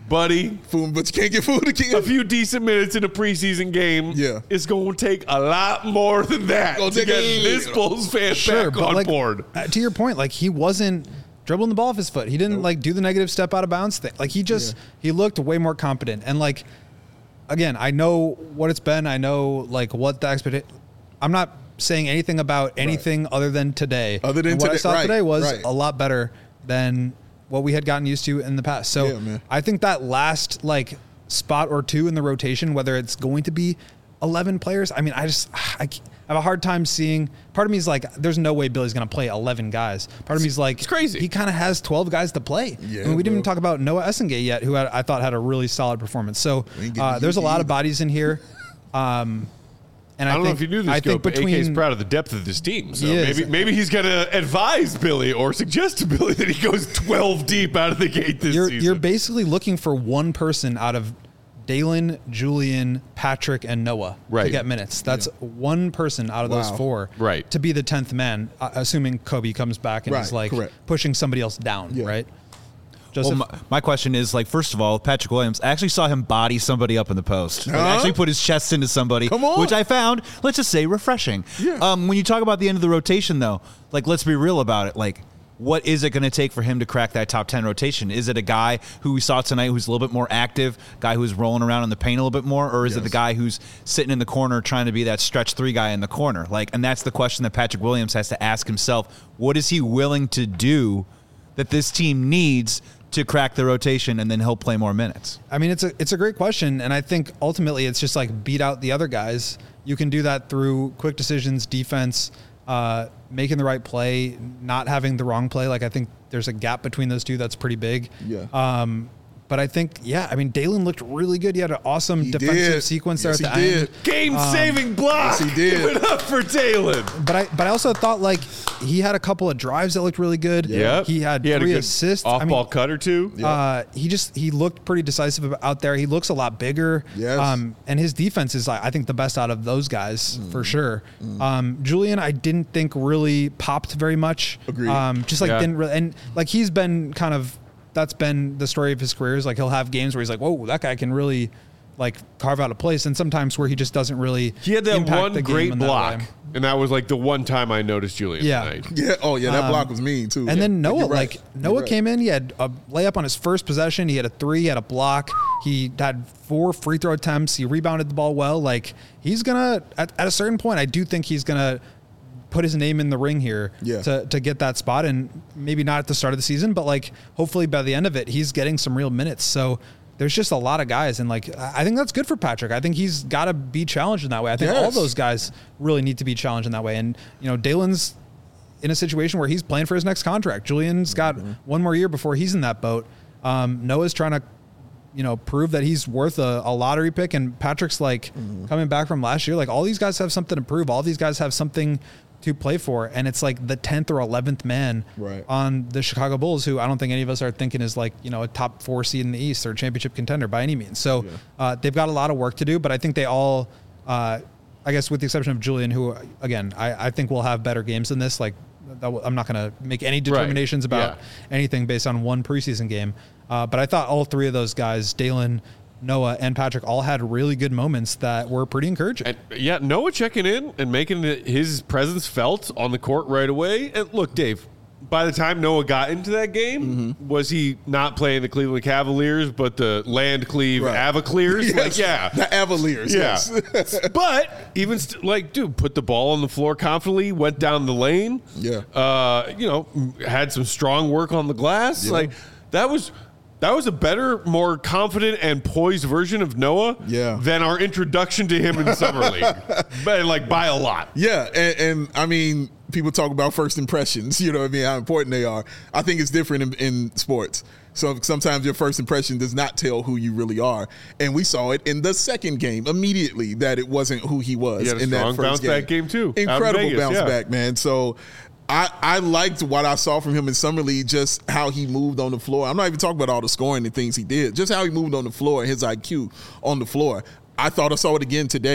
buddy. Food, but you can't get food again. A few decent minutes in a preseason game Yeah. is going to take a lot more than that Gonna to take get a- this Bulls fan Sure, back but on like, board. uh, to your point, like he wasn't dribbling the ball off his foot. He didn't like do the negative step out of bounds thing. Like he just Yeah. he looked way more competent. And like again, I know what it's been. I know like what the expectation. I'm not saying anything about anything right. other than today. Other than and what today, I saw right, today was right. a lot better than what we had gotten used to in the past. So Yeah, man. I think that last like spot or two in the rotation, whether it's going to be eleven players, I mean, I just I, can't- I have a hard time seeing. Part of me is like, there's no way Billy's going to play eleven guys. Part of me is like, It's crazy. He kind of has twelve guys to play. Yeah, I mean, we didn't bro. even talk about Noah Essengate yet, who had, I thought had a really solid performance. So We ain't getting uh, there's a U T lot of either. bodies in here. Um, and I, I don't think, know if you knew this, I Scope, think but A K is between proud of the depth of this team. So He is. maybe maybe he's going to advise Billy or suggest to Billy that he goes twelve deep out of the gate this you're season. you're basically looking for one person out of Dalen, Julian, Patrick, and Noah to Right. get minutes. That's one person out of those Wow. four Right. to be the tenth man, uh, assuming Kobe comes back and Right, is like correct. pushing somebody else down, Yeah. right? Well, Joseph, my, my question is, like, first of all, Patrick Williams, I actually saw him body somebody up in the post. Like, Huh? actually put his chest into somebody, Come on. which I found, let's just say, refreshing. Yeah. Um, when you talk about the end of the rotation, though, like, let's be real about it. Like, what is it going to take for him to crack that top ten rotation? Is it a guy who we saw tonight who's a little bit more active, guy who's rolling around in the paint a little bit more, or is it Yes. the guy who's sitting in the corner trying to be that stretch three guy in the corner? Like, and that's the question that Patrick Williams has to ask himself. What is he willing to do that this team needs to crack the rotation, and then he'll play more minutes? I mean, it's a it's a great question, and I think ultimately it's just like beat out the other guys. You can do that through quick decisions, defense, uh, making the right play, not having the wrong play. Like I think there's a gap between those two that's pretty big. Yeah. Um, but I think, yeah, I mean, Dalen looked really good. He had an awesome He defensive did. sequence Yes, there at he the did. end. Game-saving block. yes, he did. Give it up for Dalen. But I but I also thought like he had a couple of drives that looked really good. Yep. He had he had three a good assists. I off-ball mean, cut or two. Uh, he just he looked pretty decisive out there. He looks a lot bigger. Yes. Um, and his defense is I think the best out of those guys Mm. for sure. Um, Julian, I didn't think really popped very much. Agreed. Um, just like Yeah. didn't really, and like he's been kind of that's been the story of his career. Is like he'll have games where he's like, whoa, that guy can really like carve out a place, and sometimes where he just doesn't really. He had that impact one the game great in that block, way. and that was like the one time I noticed Julian Yeah. tonight. Yeah. Oh, yeah. That Um, block was mean too. And then Yeah. Noah, You're right. like You're Noah right. came in, he had a layup on his first possession. He had a three, he had a block. He had four free throw attempts. He rebounded the ball well. Like he's gonna at, at a certain point, I do think he's gonna put his name in the ring here Yeah. to, to get that spot. And maybe not at the start of the season, but like hopefully by the end of it, he's getting some real minutes. So there's just a lot of guys. And like, I think that's good for Patrick. I think he's got to be challenged in that way. I think all Yes. those guys really need to be challenged in that way. And, you know, Dalen's in a situation where he's playing for his next contract. Julian's got Mm-hmm. one more year before he's in that boat. Um, Noah's trying to, you know, prove that he's worth a, a lottery pick. And Patrick's like Mm-hmm. coming back from last year. Like all these guys have something to prove. All these guys have something to play for. And it's like the tenth or eleventh man Right. on the Chicago Bulls, who I don't think any of us are thinking is like, you know, a top four seed in the East or championship contender by any means. So uh, they've got a lot of work to do, but I think they all, uh, I guess with the exception of Julian, who again, I, I think will have better games than this. Like that w- I'm not going to make any determinations about Yeah. anything based on one preseason game. Uh, but I thought all three of those guys, Dalen, Noah, and Patrick, all had really good moments that were pretty encouraging. And yeah, Noah checking in and making it- his presence felt on the court right away. And look, Dave, by the time Noah got into that game, Mm-hmm. was he not playing the Cleveland Cavaliers, but the Landcleave Right. Avaclears? Yes. Like, yeah. The Avaliers. Yeah. Yes. But even st- like, dude, put the ball on the floor confidently, went down the lane. Yeah. Uh, you know, had some strong work on the glass. Yeah. Like that was that was a better, more confident and poised version of Noah Yeah. than our introduction to him in summer league. But like by a lot. Yeah, and, and I mean, people talk about first impressions. You know what I mean? How important they are. I think it's different in, in sports. So sometimes your first impression does not tell who you really are, and we saw it in the second game immediately that it wasn't who he was He had a in strong that first bounce game. back game, too, out in Incredible Vegas, bounce yeah. back, man. So. I, I liked what I saw from him in summer league, just how he moved on the floor. I'm not even talking about all the scoring and things he did, just how he moved on the floor and his I Q on the floor. I thought I saw it again today.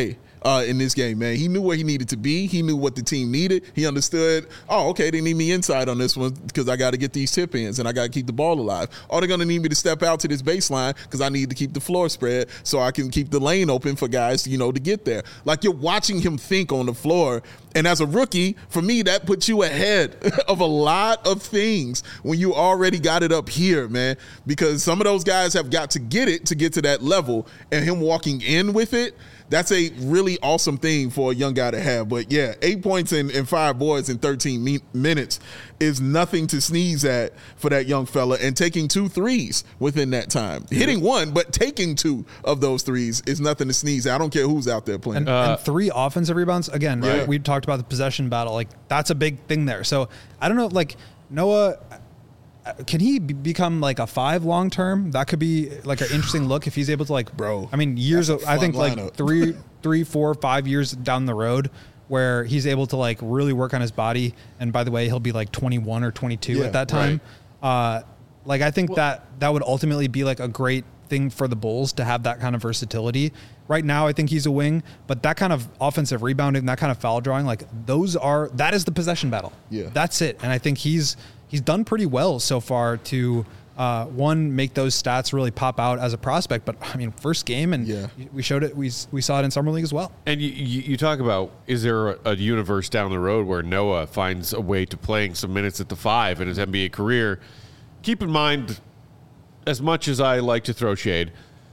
uh, in this game, man. He knew where he needed to be. He knew what the team needed. He understood, oh, okay, they need me inside on this one because I got to get these tip ins and I got to keep the ball alive. Or they're going to need me to step out to this baseline because I need to keep the floor spread so I can keep the lane open for guys, you know, to get there. Like, you're watching him think on the floor. And as a rookie, for me, that puts you ahead of a lot of things when you already got it up here, man, because some of those guys have got to get it to get to that level, and him walking in with it, that's a really awesome thing for a young guy to have. But yeah, eight points and, and five boards in thirteen me- minutes is nothing to sneeze at for that young fella. And taking two threes within that time, yeah. hitting one, but taking two of those threes is nothing to sneeze at. I don't care who's out there playing. And, uh, and three offensive rebounds. Again, right. right? We talked about the possession battle. Like, that's a big thing there. So I don't know, like Noah, can he be- become like a five long term? That could be like an interesting look if he's able to, like, bro. I mean, years. Of, I think lineup. like three, three, four, five years down the road, where he's able to like really work on his body. And by the way, he'll be like twenty-one or twenty-two yeah, at that time. Right. Uh, like, I think well, that that would ultimately be like a great thing for the Bulls to have that kind of versatility. Right now, I think he's a wing, but that kind of offensive rebounding, that kind of foul drawing, like those are that is the possession battle. Yeah, that's it. And I think he's. He's done pretty well so far to, uh, one, make those stats really pop out as a prospect. But, I mean, first game, and yeah. we showed it, we we saw it in Summer League as well. And you, you talk about, is there a, a universe down the road where Noah finds a way to playing some minutes at the five in his N B A career? Keep in mind, as much as I like to throw shade,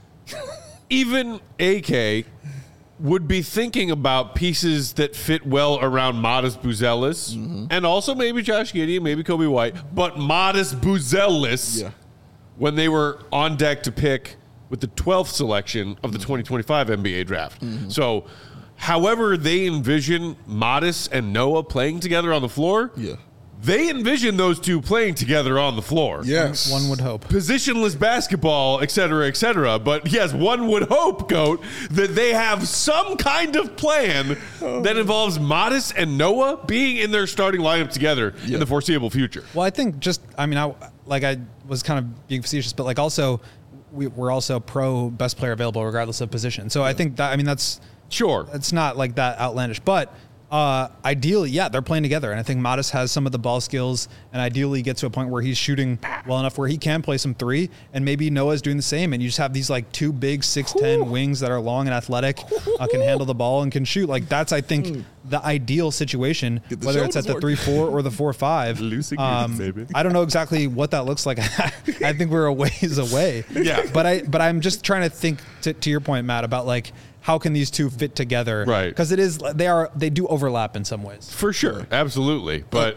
even A K would be thinking about pieces that fit well around Modest Buzelis, mm-hmm. and also maybe Josh Giddey, maybe Kobe White, but Modest Buzelis, yeah. when they were on deck to pick with the twelfth selection of the twenty twenty-five N B A draft. Mm-hmm. So however they envision Modest and Noah playing together on the floor, yeah. they envision those two playing together on the floor. Yes. One would hope. Positionless basketball, et cetera, et cetera. But yes, one would hope, Goat, that they have some kind of plan oh. that involves Modest and Noah being in their starting lineup together yeah. in the foreseeable future. Well, I think just, I mean, I like I was kind of being facetious, but like also, we, we're also pro best player available regardless of position. So yeah. I think that, I mean, that's, sure, it's not like that outlandish, but Uh, ideally, yeah, they're playing together. And I think Modest has some of the ball skills and ideally get to a point where he's shooting well enough where he can play some three. And maybe Noah's doing the same. And you just have these like two big six ten wings that are long and athletic, uh, can handle the ball and can shoot. Like, that's, I think, the ideal situation, whether it's at the three four or the four five. Um, I don't know exactly what that looks like. I think we're a ways away. Yeah. But, I, but I'm just trying to think, to, to your point, Matt, about like, how can these two fit together? Right. Because it is, they are, they do overlap in some ways. For sure. Absolutely. But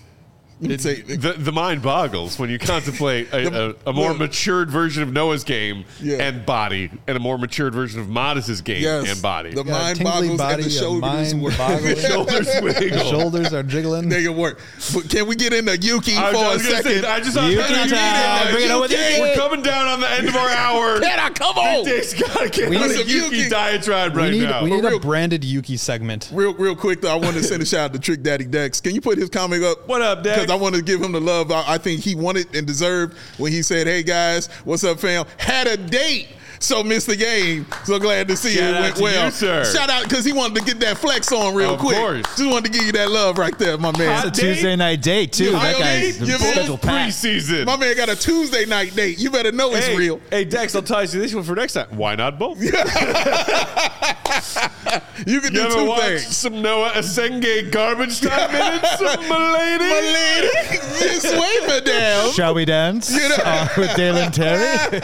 it, say, the, the mind boggles when you contemplate a, a, a more well, matured version of Noah's game yeah. and body, and a more matured version of Modest's game yes, and body. The mind boggles body, and the shoulders work. shoulders wiggle. Shoulders are jiggling. They can work. But can we get into Yuki I, for I a second? Say, I just Yuki time. Bring it on with Yuki. We're coming down on the end of our hour. Can I come on? Dick's got to get on a Yuki, Yuki diatribe right we need, now. We need real, a branded Yuki segment. Real, real quick though, I want to send a shout out to Trick Daddy Dex. Can you put his comic up? What up, Dex? Because I want to give him the love I think he wanted and deserved when he said, "Hey guys, what's up, fam? Had a date, so missed the game. So glad to see Shout it went well." You, sir. Shout out because he wanted to get that flex on real of quick. Course. Just wanted to give you that love right there, my man. It's a Tuesday night date too. You that guy's you schedule preseason. My man got a Tuesday night date. You better know hey, it's real. Hey Dex, I'll tell you this one for next time. Why not both? You can you do ever two watch things. Some Noah Asenge garbage time minutes, my lady. My lady, Miss Way, madam. Shall we dance you know? uh, with Dalen Terry?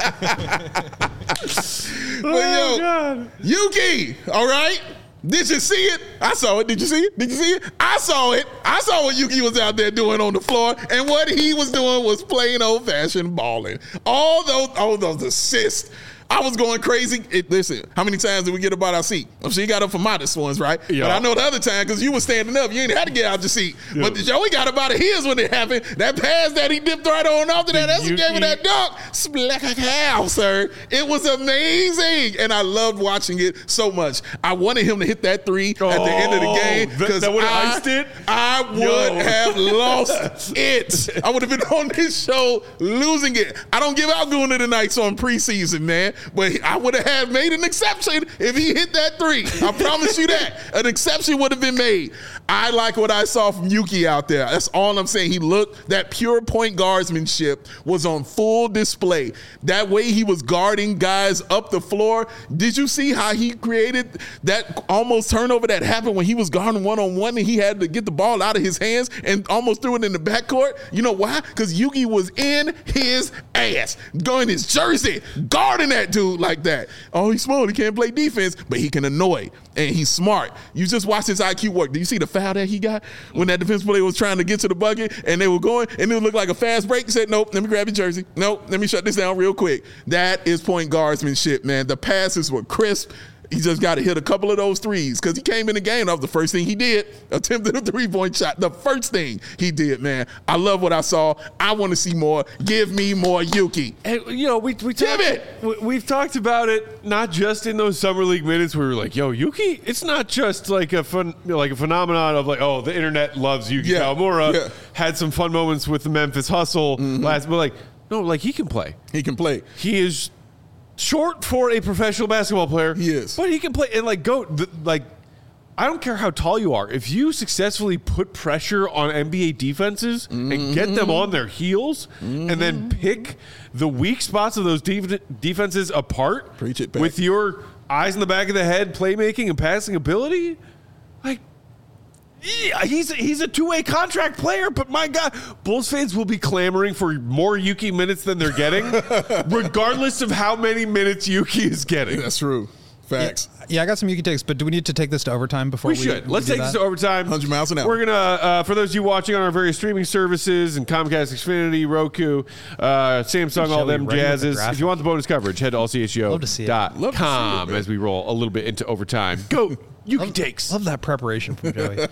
But yo, God. Yuki, all right? Did you see it? I saw it. Did you see it? Did you see it? I saw it. I saw what Yuki was out there doing on the floor, and what he was doing was plain old-fashioned balling. All those, all those assists. I was going crazy. It, listen, how many times did we get about our seat? I'm sure you got up for Modest ones, right? Yeah. But I know the other time, because you were standing up, you ain't had to get out your seat. Yeah. But Joey got up out of his when it happened. That pass that he dipped right on after that, that's what gave him that dunk. Splack cow, sir. It was amazing. And I loved watching it so much. I wanted him to hit that three oh, at the end of the game. That, that would have iced it? I would Yo. have lost it. I would have been on this show losing it. I don't give out Gooner the Nights on preseason, man. but I would have had made an exception if he hit that three. I promise you that. An exception would have been made. I like what I saw from Yuki out there. That's all I'm saying. He looked, that pure point guardsmanship was on full display. That way he was guarding guys up the floor. Did you see how he created that almost turnover that happened when he was guarding one-on-one and he had to get the ball out of his hands and almost threw it in the backcourt? You know why? Because Yuki was in his ass, going his jersey, guarding that dude like that. Oh, he's small. He can't play defense, but he can annoy, and he's smart. You just watch his I Q work. Do you see the foul that he got when that defense player was trying to get to the bucket and they were going and it looked like a fast break? He said, nope, let me grab your jersey. Nope, let me shut this down real quick. That is point guardsmanship, man. The passes were crisp. He just got to hit a couple of those threes because he came in the game. That was the first thing he did. Attempted a three-point shot. The first thing he did, man. I love what I saw. I want to see more. Give me more Yuki. And, you know, we, we talked, it. we, we've talked about it not just in those summer league minutes where we were like, yo, Yuki, it's not just like a fun, you know, like a phenomenon of like, oh, the internet loves Yuki Yeah. Kawamura. Yeah. Had some fun moments with the Memphis Hustle Mm-hmm. last, but like, no, like he can play. He can play. He is short for a professional basketball player. He is. But he can play. And, like, go, the, like, I don't care how tall you are. If you successfully put pressure on N B A defenses mm-hmm. and get them on their heels mm-hmm. and then pick the weak spots of those def- defenses apart Preach it back. with your eyes in the back of the head, playmaking and passing ability, like, yeah, he's he's a two-way contract player, but my God, Bulls fans will be clamoring for more Yuki minutes than they're getting, regardless of how many minutes Yuki is getting. That's true. Facts. Yeah, yeah, I got some Yuki takes, but do we need to take this to overtime before We we should. we Let's do take this that? to overtime. one hundred miles an hour. We're going to, uh, for those of you watching on our various streaming services and Comcast, Xfinity, Roku, uh, Samsung, all Shall we them run with the jazzes. graphic? If you want the bonus coverage, head to all c h o Love to see it. dot Love to see it, com man. as we roll a little bit into overtime. Go, Yuki takes. Love that preparation from Joey.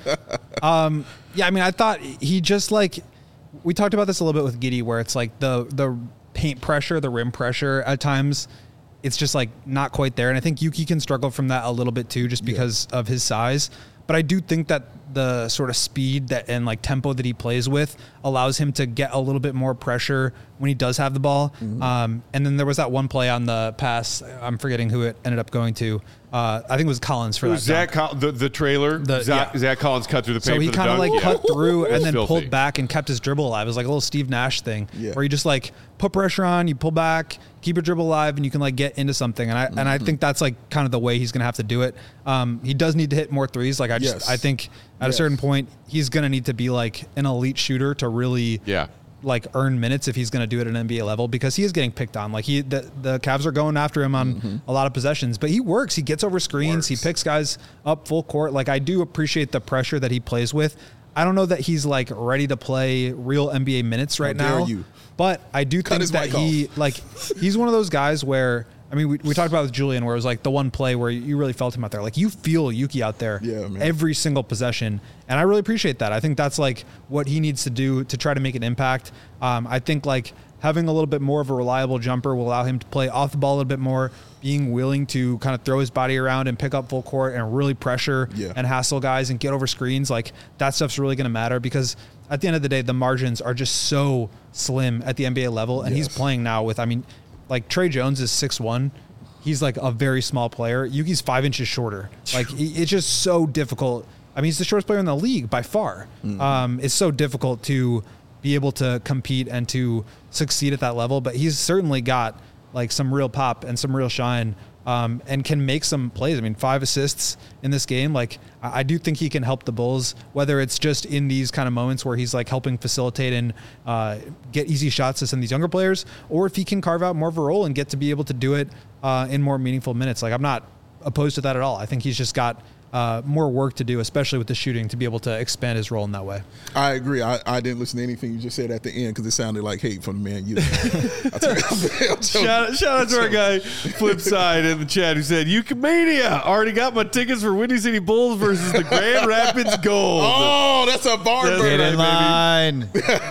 um, yeah, I mean, I thought he just like we talked about this a little bit with Giddey, where it's like the the paint pressure, the rim pressure at times, it's just like not quite there. And I think Yuki can struggle from that a little bit too, just because yeah. of his size. But I do think that the sort of speed that and like tempo that he plays with allows him to get a little bit more pressure when he does have the ball. Mm-hmm. Um, and then there was that one play on the pass. I'm forgetting who it ended up going to. Uh, I think it was Collins for it that. was Zach, Col- the, the trailer. The, Zach, yeah. Zach Collins cut through the paint. So he for the kind of dunk. like Yeah. cut through and then filthy. pulled back and kept his dribble alive. It was like a little Steve Nash thing Yeah. where you just like put pressure on, you pull back, keep your dribble alive, and you can like get into something. And I mm-hmm. and I think that's like kind of the way he's going to have to do it. Um, he does need to hit more threes. Like I just Yes. I think at Yes. a certain point he's going to need to be like an elite shooter to really Yeah. like earn minutes if he's going to do it at an N B A level, because he is getting picked on. Like he, the, the Cavs are going after him on mm-hmm. a lot of possessions, but he works. He gets over screens. Works. He picks guys up full court. Like I do appreciate the pressure that he plays with. I don't know that he's like ready to play real N B A minutes right How dare now, you. but I do Cut think his that mic he off. like he's one of those guys where. I mean, we, we talked about with Julian where it was like the one play where you really felt him out there. Like you feel Yuki out there Yeah, man. every single possession. And I really appreciate that. I think that's like what he needs to do to try to make an impact. Um, I think like having a little bit more of a reliable jumper will allow him to play off the ball a little bit more, being willing to kind of throw his body around and pick up full court and really pressure Yeah. and hassle guys and get over screens. Like that stuff's really going to matter because at the end of the day, the margins are just so slim at the N B A level. And Yes. he's playing now with, I mean, like Trey Jones is six one. He's like a very small player. Yuki's five inches shorter. Like he, it's just so difficult. I mean, he's the shortest player in the league by far. Mm-hmm. Um, it's so difficult to be able to compete and to succeed at that level. But he's certainly got like some real pop and some real shine, um, and can make some plays. I mean, five assists in this game. Like I, I do think he can help the Bulls, whether it's just in these kind of moments where he's like helping facilitate and uh, get easy shots to some of these younger players, or if he can carve out more of a role and get to be able to do it uh, in more meaningful minutes. Like I'm not opposed to that at all. I think he's just got uh, more work to do, especially with the shooting, to be able to expand his role in that way. I agree. I, I didn't listen to anything you just said at the end because it sounded like hate from the man. You, I tell you, I'm joking. Shout, shout out to our guy Flipside in the chat who said, Eucomania, already got my tickets for Windy City Bulls versus the Grand Rapids Gold. Oh, that's a barn That's burner. Get in line.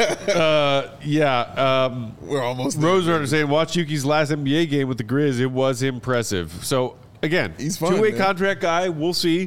Uh, yeah. Um, We're almost there. Rose Runner saying, watch Yuki's last N B A game with the Grizz. It was impressive. So, again, He's fun, two-way man. contract guy. We'll see.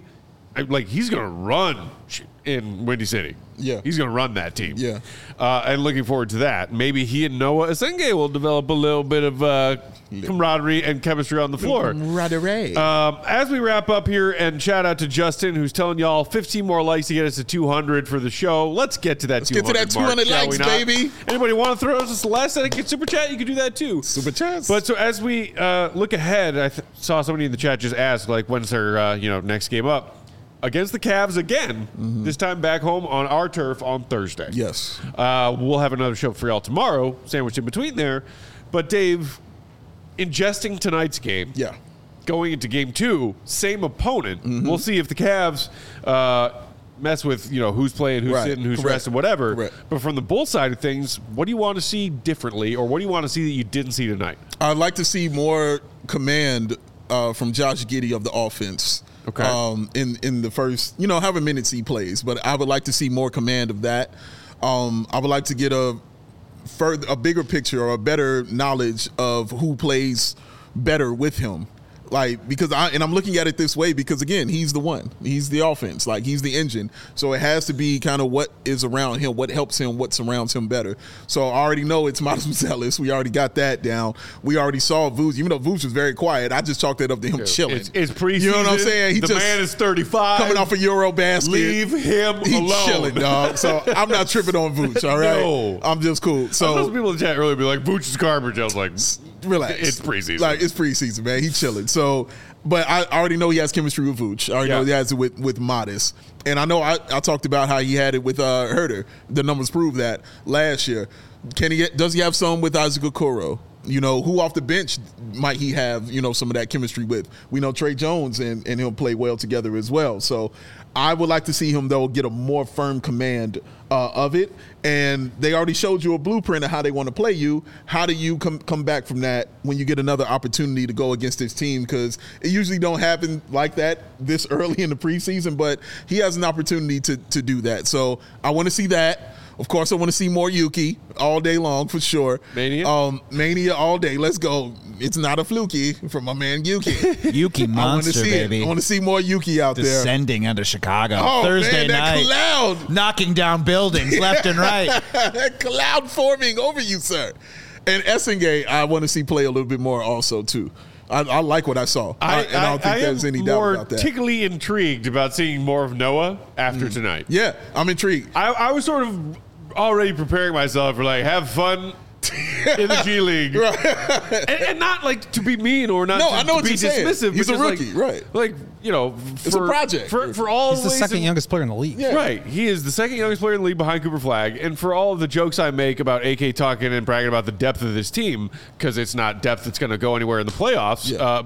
I, like he's going to run in Windy City. Yeah. He's going to run that team. Yeah. Uh, and looking forward to that. Maybe he and Noah Asenge will develop a little bit of uh, camaraderie and chemistry on the floor. Camaraderie. Um, as we wrap up here, and shout out to Justin, who's telling y'all fifteen more likes to get us to two hundred for the show. Let's get to that Let's two get hundred to that mark, two hundred shall likes, we not? baby. Anybody want to throw us a last second super chat? You can do that too. Super chats. But so as we uh, look ahead, I th- saw somebody in the chat just ask, like, when's their uh, you know next game up? Against the Cavs again, mm-hmm. this time back home on our turf on Thursday. Yes. Uh, we'll have another show for y'all tomorrow, sandwiched in between there. But Dave, ingesting tonight's game, Yeah. going into game two, same opponent. Mm-hmm. We'll see if the Cavs uh, mess with, you know, who's playing, who's Right. sitting, who's Correct. resting, whatever. Correct. But from the Bull side of things, what do you want to see differently, or what do you want to see that you didn't see tonight? I'd like to see more command uh, from Josh Giddey of the offense. Okay. Um, in in the first, you know, however minutes he plays, but I would like to see more command of that. Um, I would like to get a further, a bigger picture or a better knowledge of who plays better with him. Like, because I, and I'm looking at it this way because, again, he's the one. He's the offense. Like, he's the engine. So it has to be kind of what is around him, what helps him, what surrounds him better. So I already know it's Miles Mouzelis. We already got that down. We already saw Vooch. Even though Vooch was very quiet, I just chalked it up to him chilling. It's, it's preseason. You know what I'm saying? He the just man is thirty-five. coming off a Euro basket. Leave him He's alone. chilling, dog. So I'm not tripping on Vooch, all right? No. I'm just cool. I saw some So people in the chat earlier be like, Vooch is garbage. I was like, relax. It's preseason. Like, it's preseason, man. He's chilling. So, but I already know he has chemistry with Vooch. I already Yeah. know he has it with, with Modest. And I know I, I talked about how he had it with uh, Herter. The numbers prove that last year. Can he get, does he have some with Isaac Okoro? You know, who off the bench might he have, you know, some of that chemistry with? We know Trey Jones and, and he'll play well together as well. So I would like to see him, though, get a more firm command uh, of it. And they already showed you a blueprint of how they want to play you. How do you come come back from that when you get another opportunity to go against this team? Because it usually don't happen like that this early in the preseason, but he has an opportunity to, to do that. So I want to see that. Of course, I want to see more Yuki all day long for sure. Mania? Um, Mania all day. Let's go. It's not a fluky from my man Yuki. Yuki I want to monster, see baby. it. I want to see more Yuki out there. Descending under Chicago Oh, Thursday man, that night, cloud. knocking down buildings left and right. That cloud forming over you, sir. And Essengay, I want to see play a little bit more also, too. I, I like what I saw. I, and I don't think I there's am any doubt more about that. particularly intrigued about seeing more of Noah after tonight. Yeah, I'm intrigued. I, I was sort of already preparing myself for like have fun in the G League, and, and not like to be mean or not No, to, I know to what be you're saying. dismissive. He's but a just rookie, like, right. Like you know, It's a for, project. for for all He's the ways second and- youngest player in the league. Yeah. Right, he is the second youngest player in the league behind Cooper Flagg, and for all of the jokes I make about A K talking and bragging about the depth of this team, because it's not depth that's going to go anywhere in the playoffs. Yeah. Uh,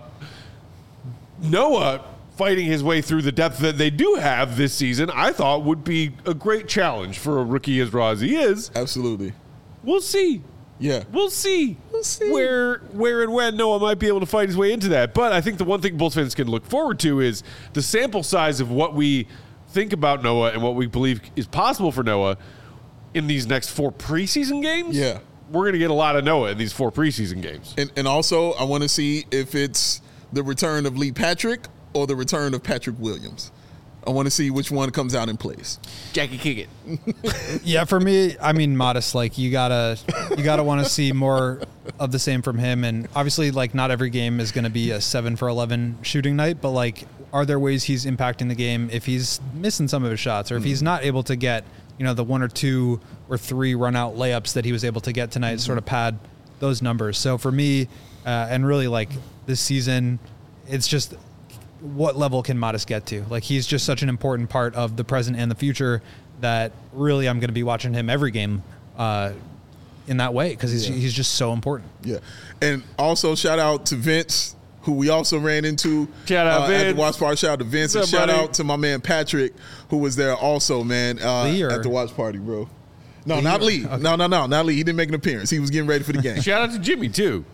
Noah fighting his way through the depth that they do have this season, I thought would be a great challenge for a rookie as raw as he is. Absolutely. We'll see. Yeah. We'll see. We'll see. where where and when Noah might be able to fight his way into that. But I think the one thing Bulls fans can look forward to is the sample size of what we think about Noah and what we believe is possible for Noah in these next four preseason games. Yeah. We're going to get a lot of Noah in these four preseason games. And, and also, I want to see if it's the return of Lee Patrick or the return of Patrick Williams. I want to see which one comes out in place. Jackie Kiggett. Yeah, for me, I mean, Modest. Like you gotta, you gotta want to see more of the same from him. And obviously, like not every game is going to be a seven for eleven shooting night. But like, are there ways he's impacting the game if he's missing some of his shots, or if he's not able to get, you know, the one or two or three run out layups that he was able to get tonight, sort of pad those numbers. So for me, uh, and really like this season, it's just, what level can Modest get to? Like he's just such an important part of the present and the future that really I'm going to be watching him every game uh, in that way because he's Yeah. he's just so important. Yeah. And also shout out to Vince, who we also ran into Shout out, uh, at Vince. the watch party. Shout out to Vince. What's And up, shout buddy? out to my man Patrick, who was there also, man, uh, Lee or- at the watch party, bro. No, Lee not or- Lee. okay. No, no, no, not Lee. He didn't make an appearance. He was getting ready for the game. Shout out to Jimmy, too.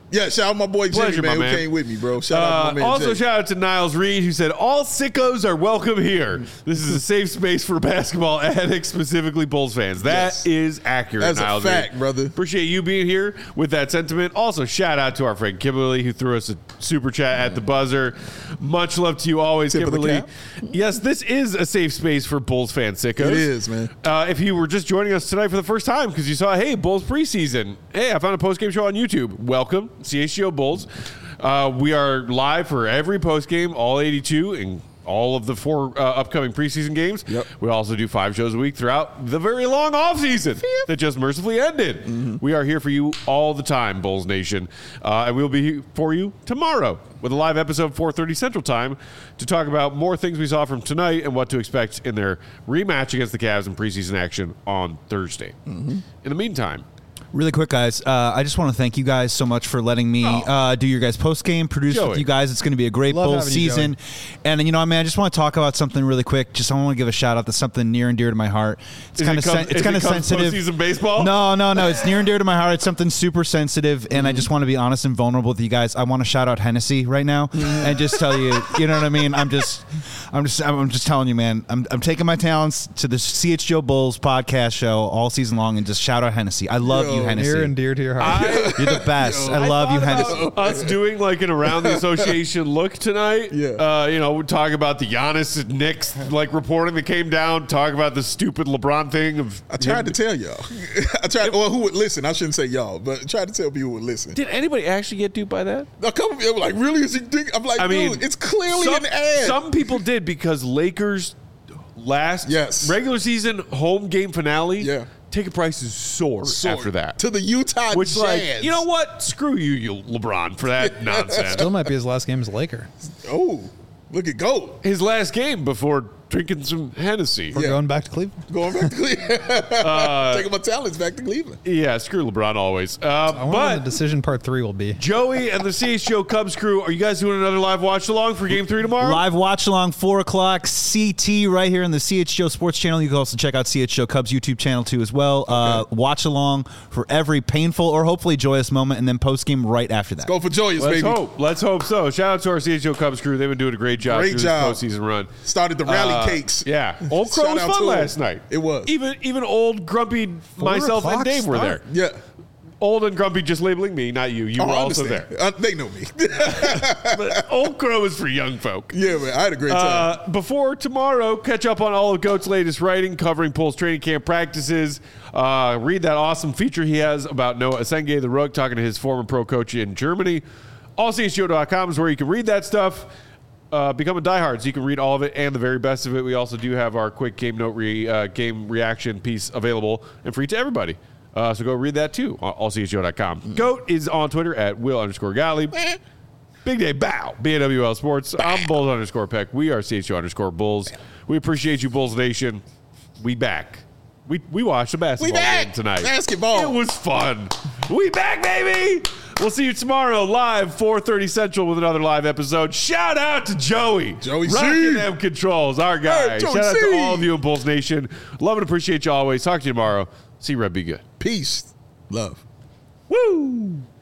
Yeah, shout out my boy Jimmy, Pleasure, man, my who man. came with me, bro. Shout out Uh, to my man also, Jay. shout out to Niles Reed, who said, all sickos are welcome here. This is a safe space for basketball addicts, specifically Bulls fans. That Yes. is accurate, That's a Niles fact, Reed. brother. Appreciate you being here with that sentiment. Also, shout out to our friend Kimberly, who threw us a super chat at the buzzer. Much love to you always, Tip of the Kimberly. cap. Yes, this is a safe space for Bulls fan sickos. It is, man. Uh, if you were just joining us tonight for the first time because you saw, hey, Bulls preseason. Hey, I found a post-game show on YouTube. Welcome, C H G O Bulls. Uh, we are live for every post-game, all eighty-two, and all of the four uh, upcoming preseason games. Yep. We also do five shows a week throughout the very long offseason that just mercifully ended. Mm-hmm. We are here for you all the time, Bulls Nation. Uh, and we'll be here for you tomorrow with a live episode, four thirty Central Time, to talk about more things we saw from tonight and what to expect in their rematch against the Cavs in preseason action on Thursday. Mm-hmm. In the meantime, Really quick, guys. Uh, I just want to thank you guys so much for letting me Oh. uh, do your guys post game, produce Joey. with you guys. It's going to be a great Love Bulls having you, season. And you know, I mean, I just want to talk about something really quick. Just I want to give a shout out to something near and dear to my heart. It's Is kind it of come- sen- it's is kind it of come sensitive. postseason baseball? No, no, no. It's near and dear to my heart. It's something super sensitive, and I just want to be honest and vulnerable with you guys. I want to shout out Hennessy right now and just tell you, you know what I mean. I'm just, I'm just, I'm just telling you, man. I'm, I'm taking my talents to the C H G O Bulls podcast show all season long and just shout out Hennessy. I love Yo, you, Hennessy. Near and dear to your heart. I, You're the best. I love you, thought Hennessy. about us doing like an around the association look tonight. Yeah. Uh, you know, we talk about the Giannis Knicks like reporting that came down. Talk about the stupid LeBron thing of. I tried to tell y'all. I tried. Well, who would listen? I shouldn't say y'all, but I tried to tell people who would listen. Did anybody actually get duped by that? A couple of people were like, really? Is he think? I'm like, I mean, dude, it's clearly some, an ad. Some people did because Lakers last Yes. regular season home game finale. Yeah. Ticket prices soared, Soared after that. to the Utah Which, Jazz. like, you know what? Screw you, you LeBron, for that nonsense. Still might be his last game as a Laker. Oh, look at go. His last game before drinking some Hennessy. We're Yeah. going back to Cleveland. Going back to Cleveland. Uh, Taking my talents back to Cleveland. Yeah, screw LeBron always. Uh, I wonder what but the decision part three will be. Joey and the C H G O Cubs crew, are you guys doing another live watch along for Game Three tomorrow? Live watch along, four o'clock C T right here in the C H G O Sports Channel. You can also check out C H G O Cubs YouTube channel too as well. Uh, watch along for every painful or hopefully joyous moment, and then post game right after that. Go for joyous, Let's baby. hope. Let's hope so. Shout out to our C H G O Cubs crew. They've been doing a great job Great through job. this postseason run. Started the rally Uh, cakes. Yeah, Old Crow Shout was out fun to last him. night. It was. Even even old grumpy myself and o'clock Dave were there. start. Yeah. Old and grumpy, just labeling me, not you. You Oh, were I also understand. there. Uh, they know me. But Old Crow is for young folk. Yeah, man. I had a great time. Uh, before tomorrow, catch up on all of Goat's latest writing covering Bulls training camp practices. Uh, read that awesome feature he has about Noah Asenge, the Rook, talking to his former pro coach in Germany. all C H G O dot com is where you can read that stuff. Uh, become a diehard so you can read all of it and the very best of it. We also do have our quick game note re, uh, game reaction piece available and free to everybody. Uh, so go read that too on all C H G O dot com. Goat is on Twitter at Will underscore Galley. Big Day Bow, B A W L Sports. I'm Bulls underscore Peck. We are C H O underscore Bulls. We appreciate you, Bulls Nation. We back. We we watched a basketball We back. game tonight. Basketball. It was fun. We back, baby. We'll see you tomorrow live, four thirty Central with another live episode. Shout out to Joey. Joey C. Rocking them controls, our guy. Hey, Joey Shout out C. to all of you in Bulls Nation. Love and appreciate you always. Talk to you tomorrow. See you, Red. Be good. Peace. Love. Woo!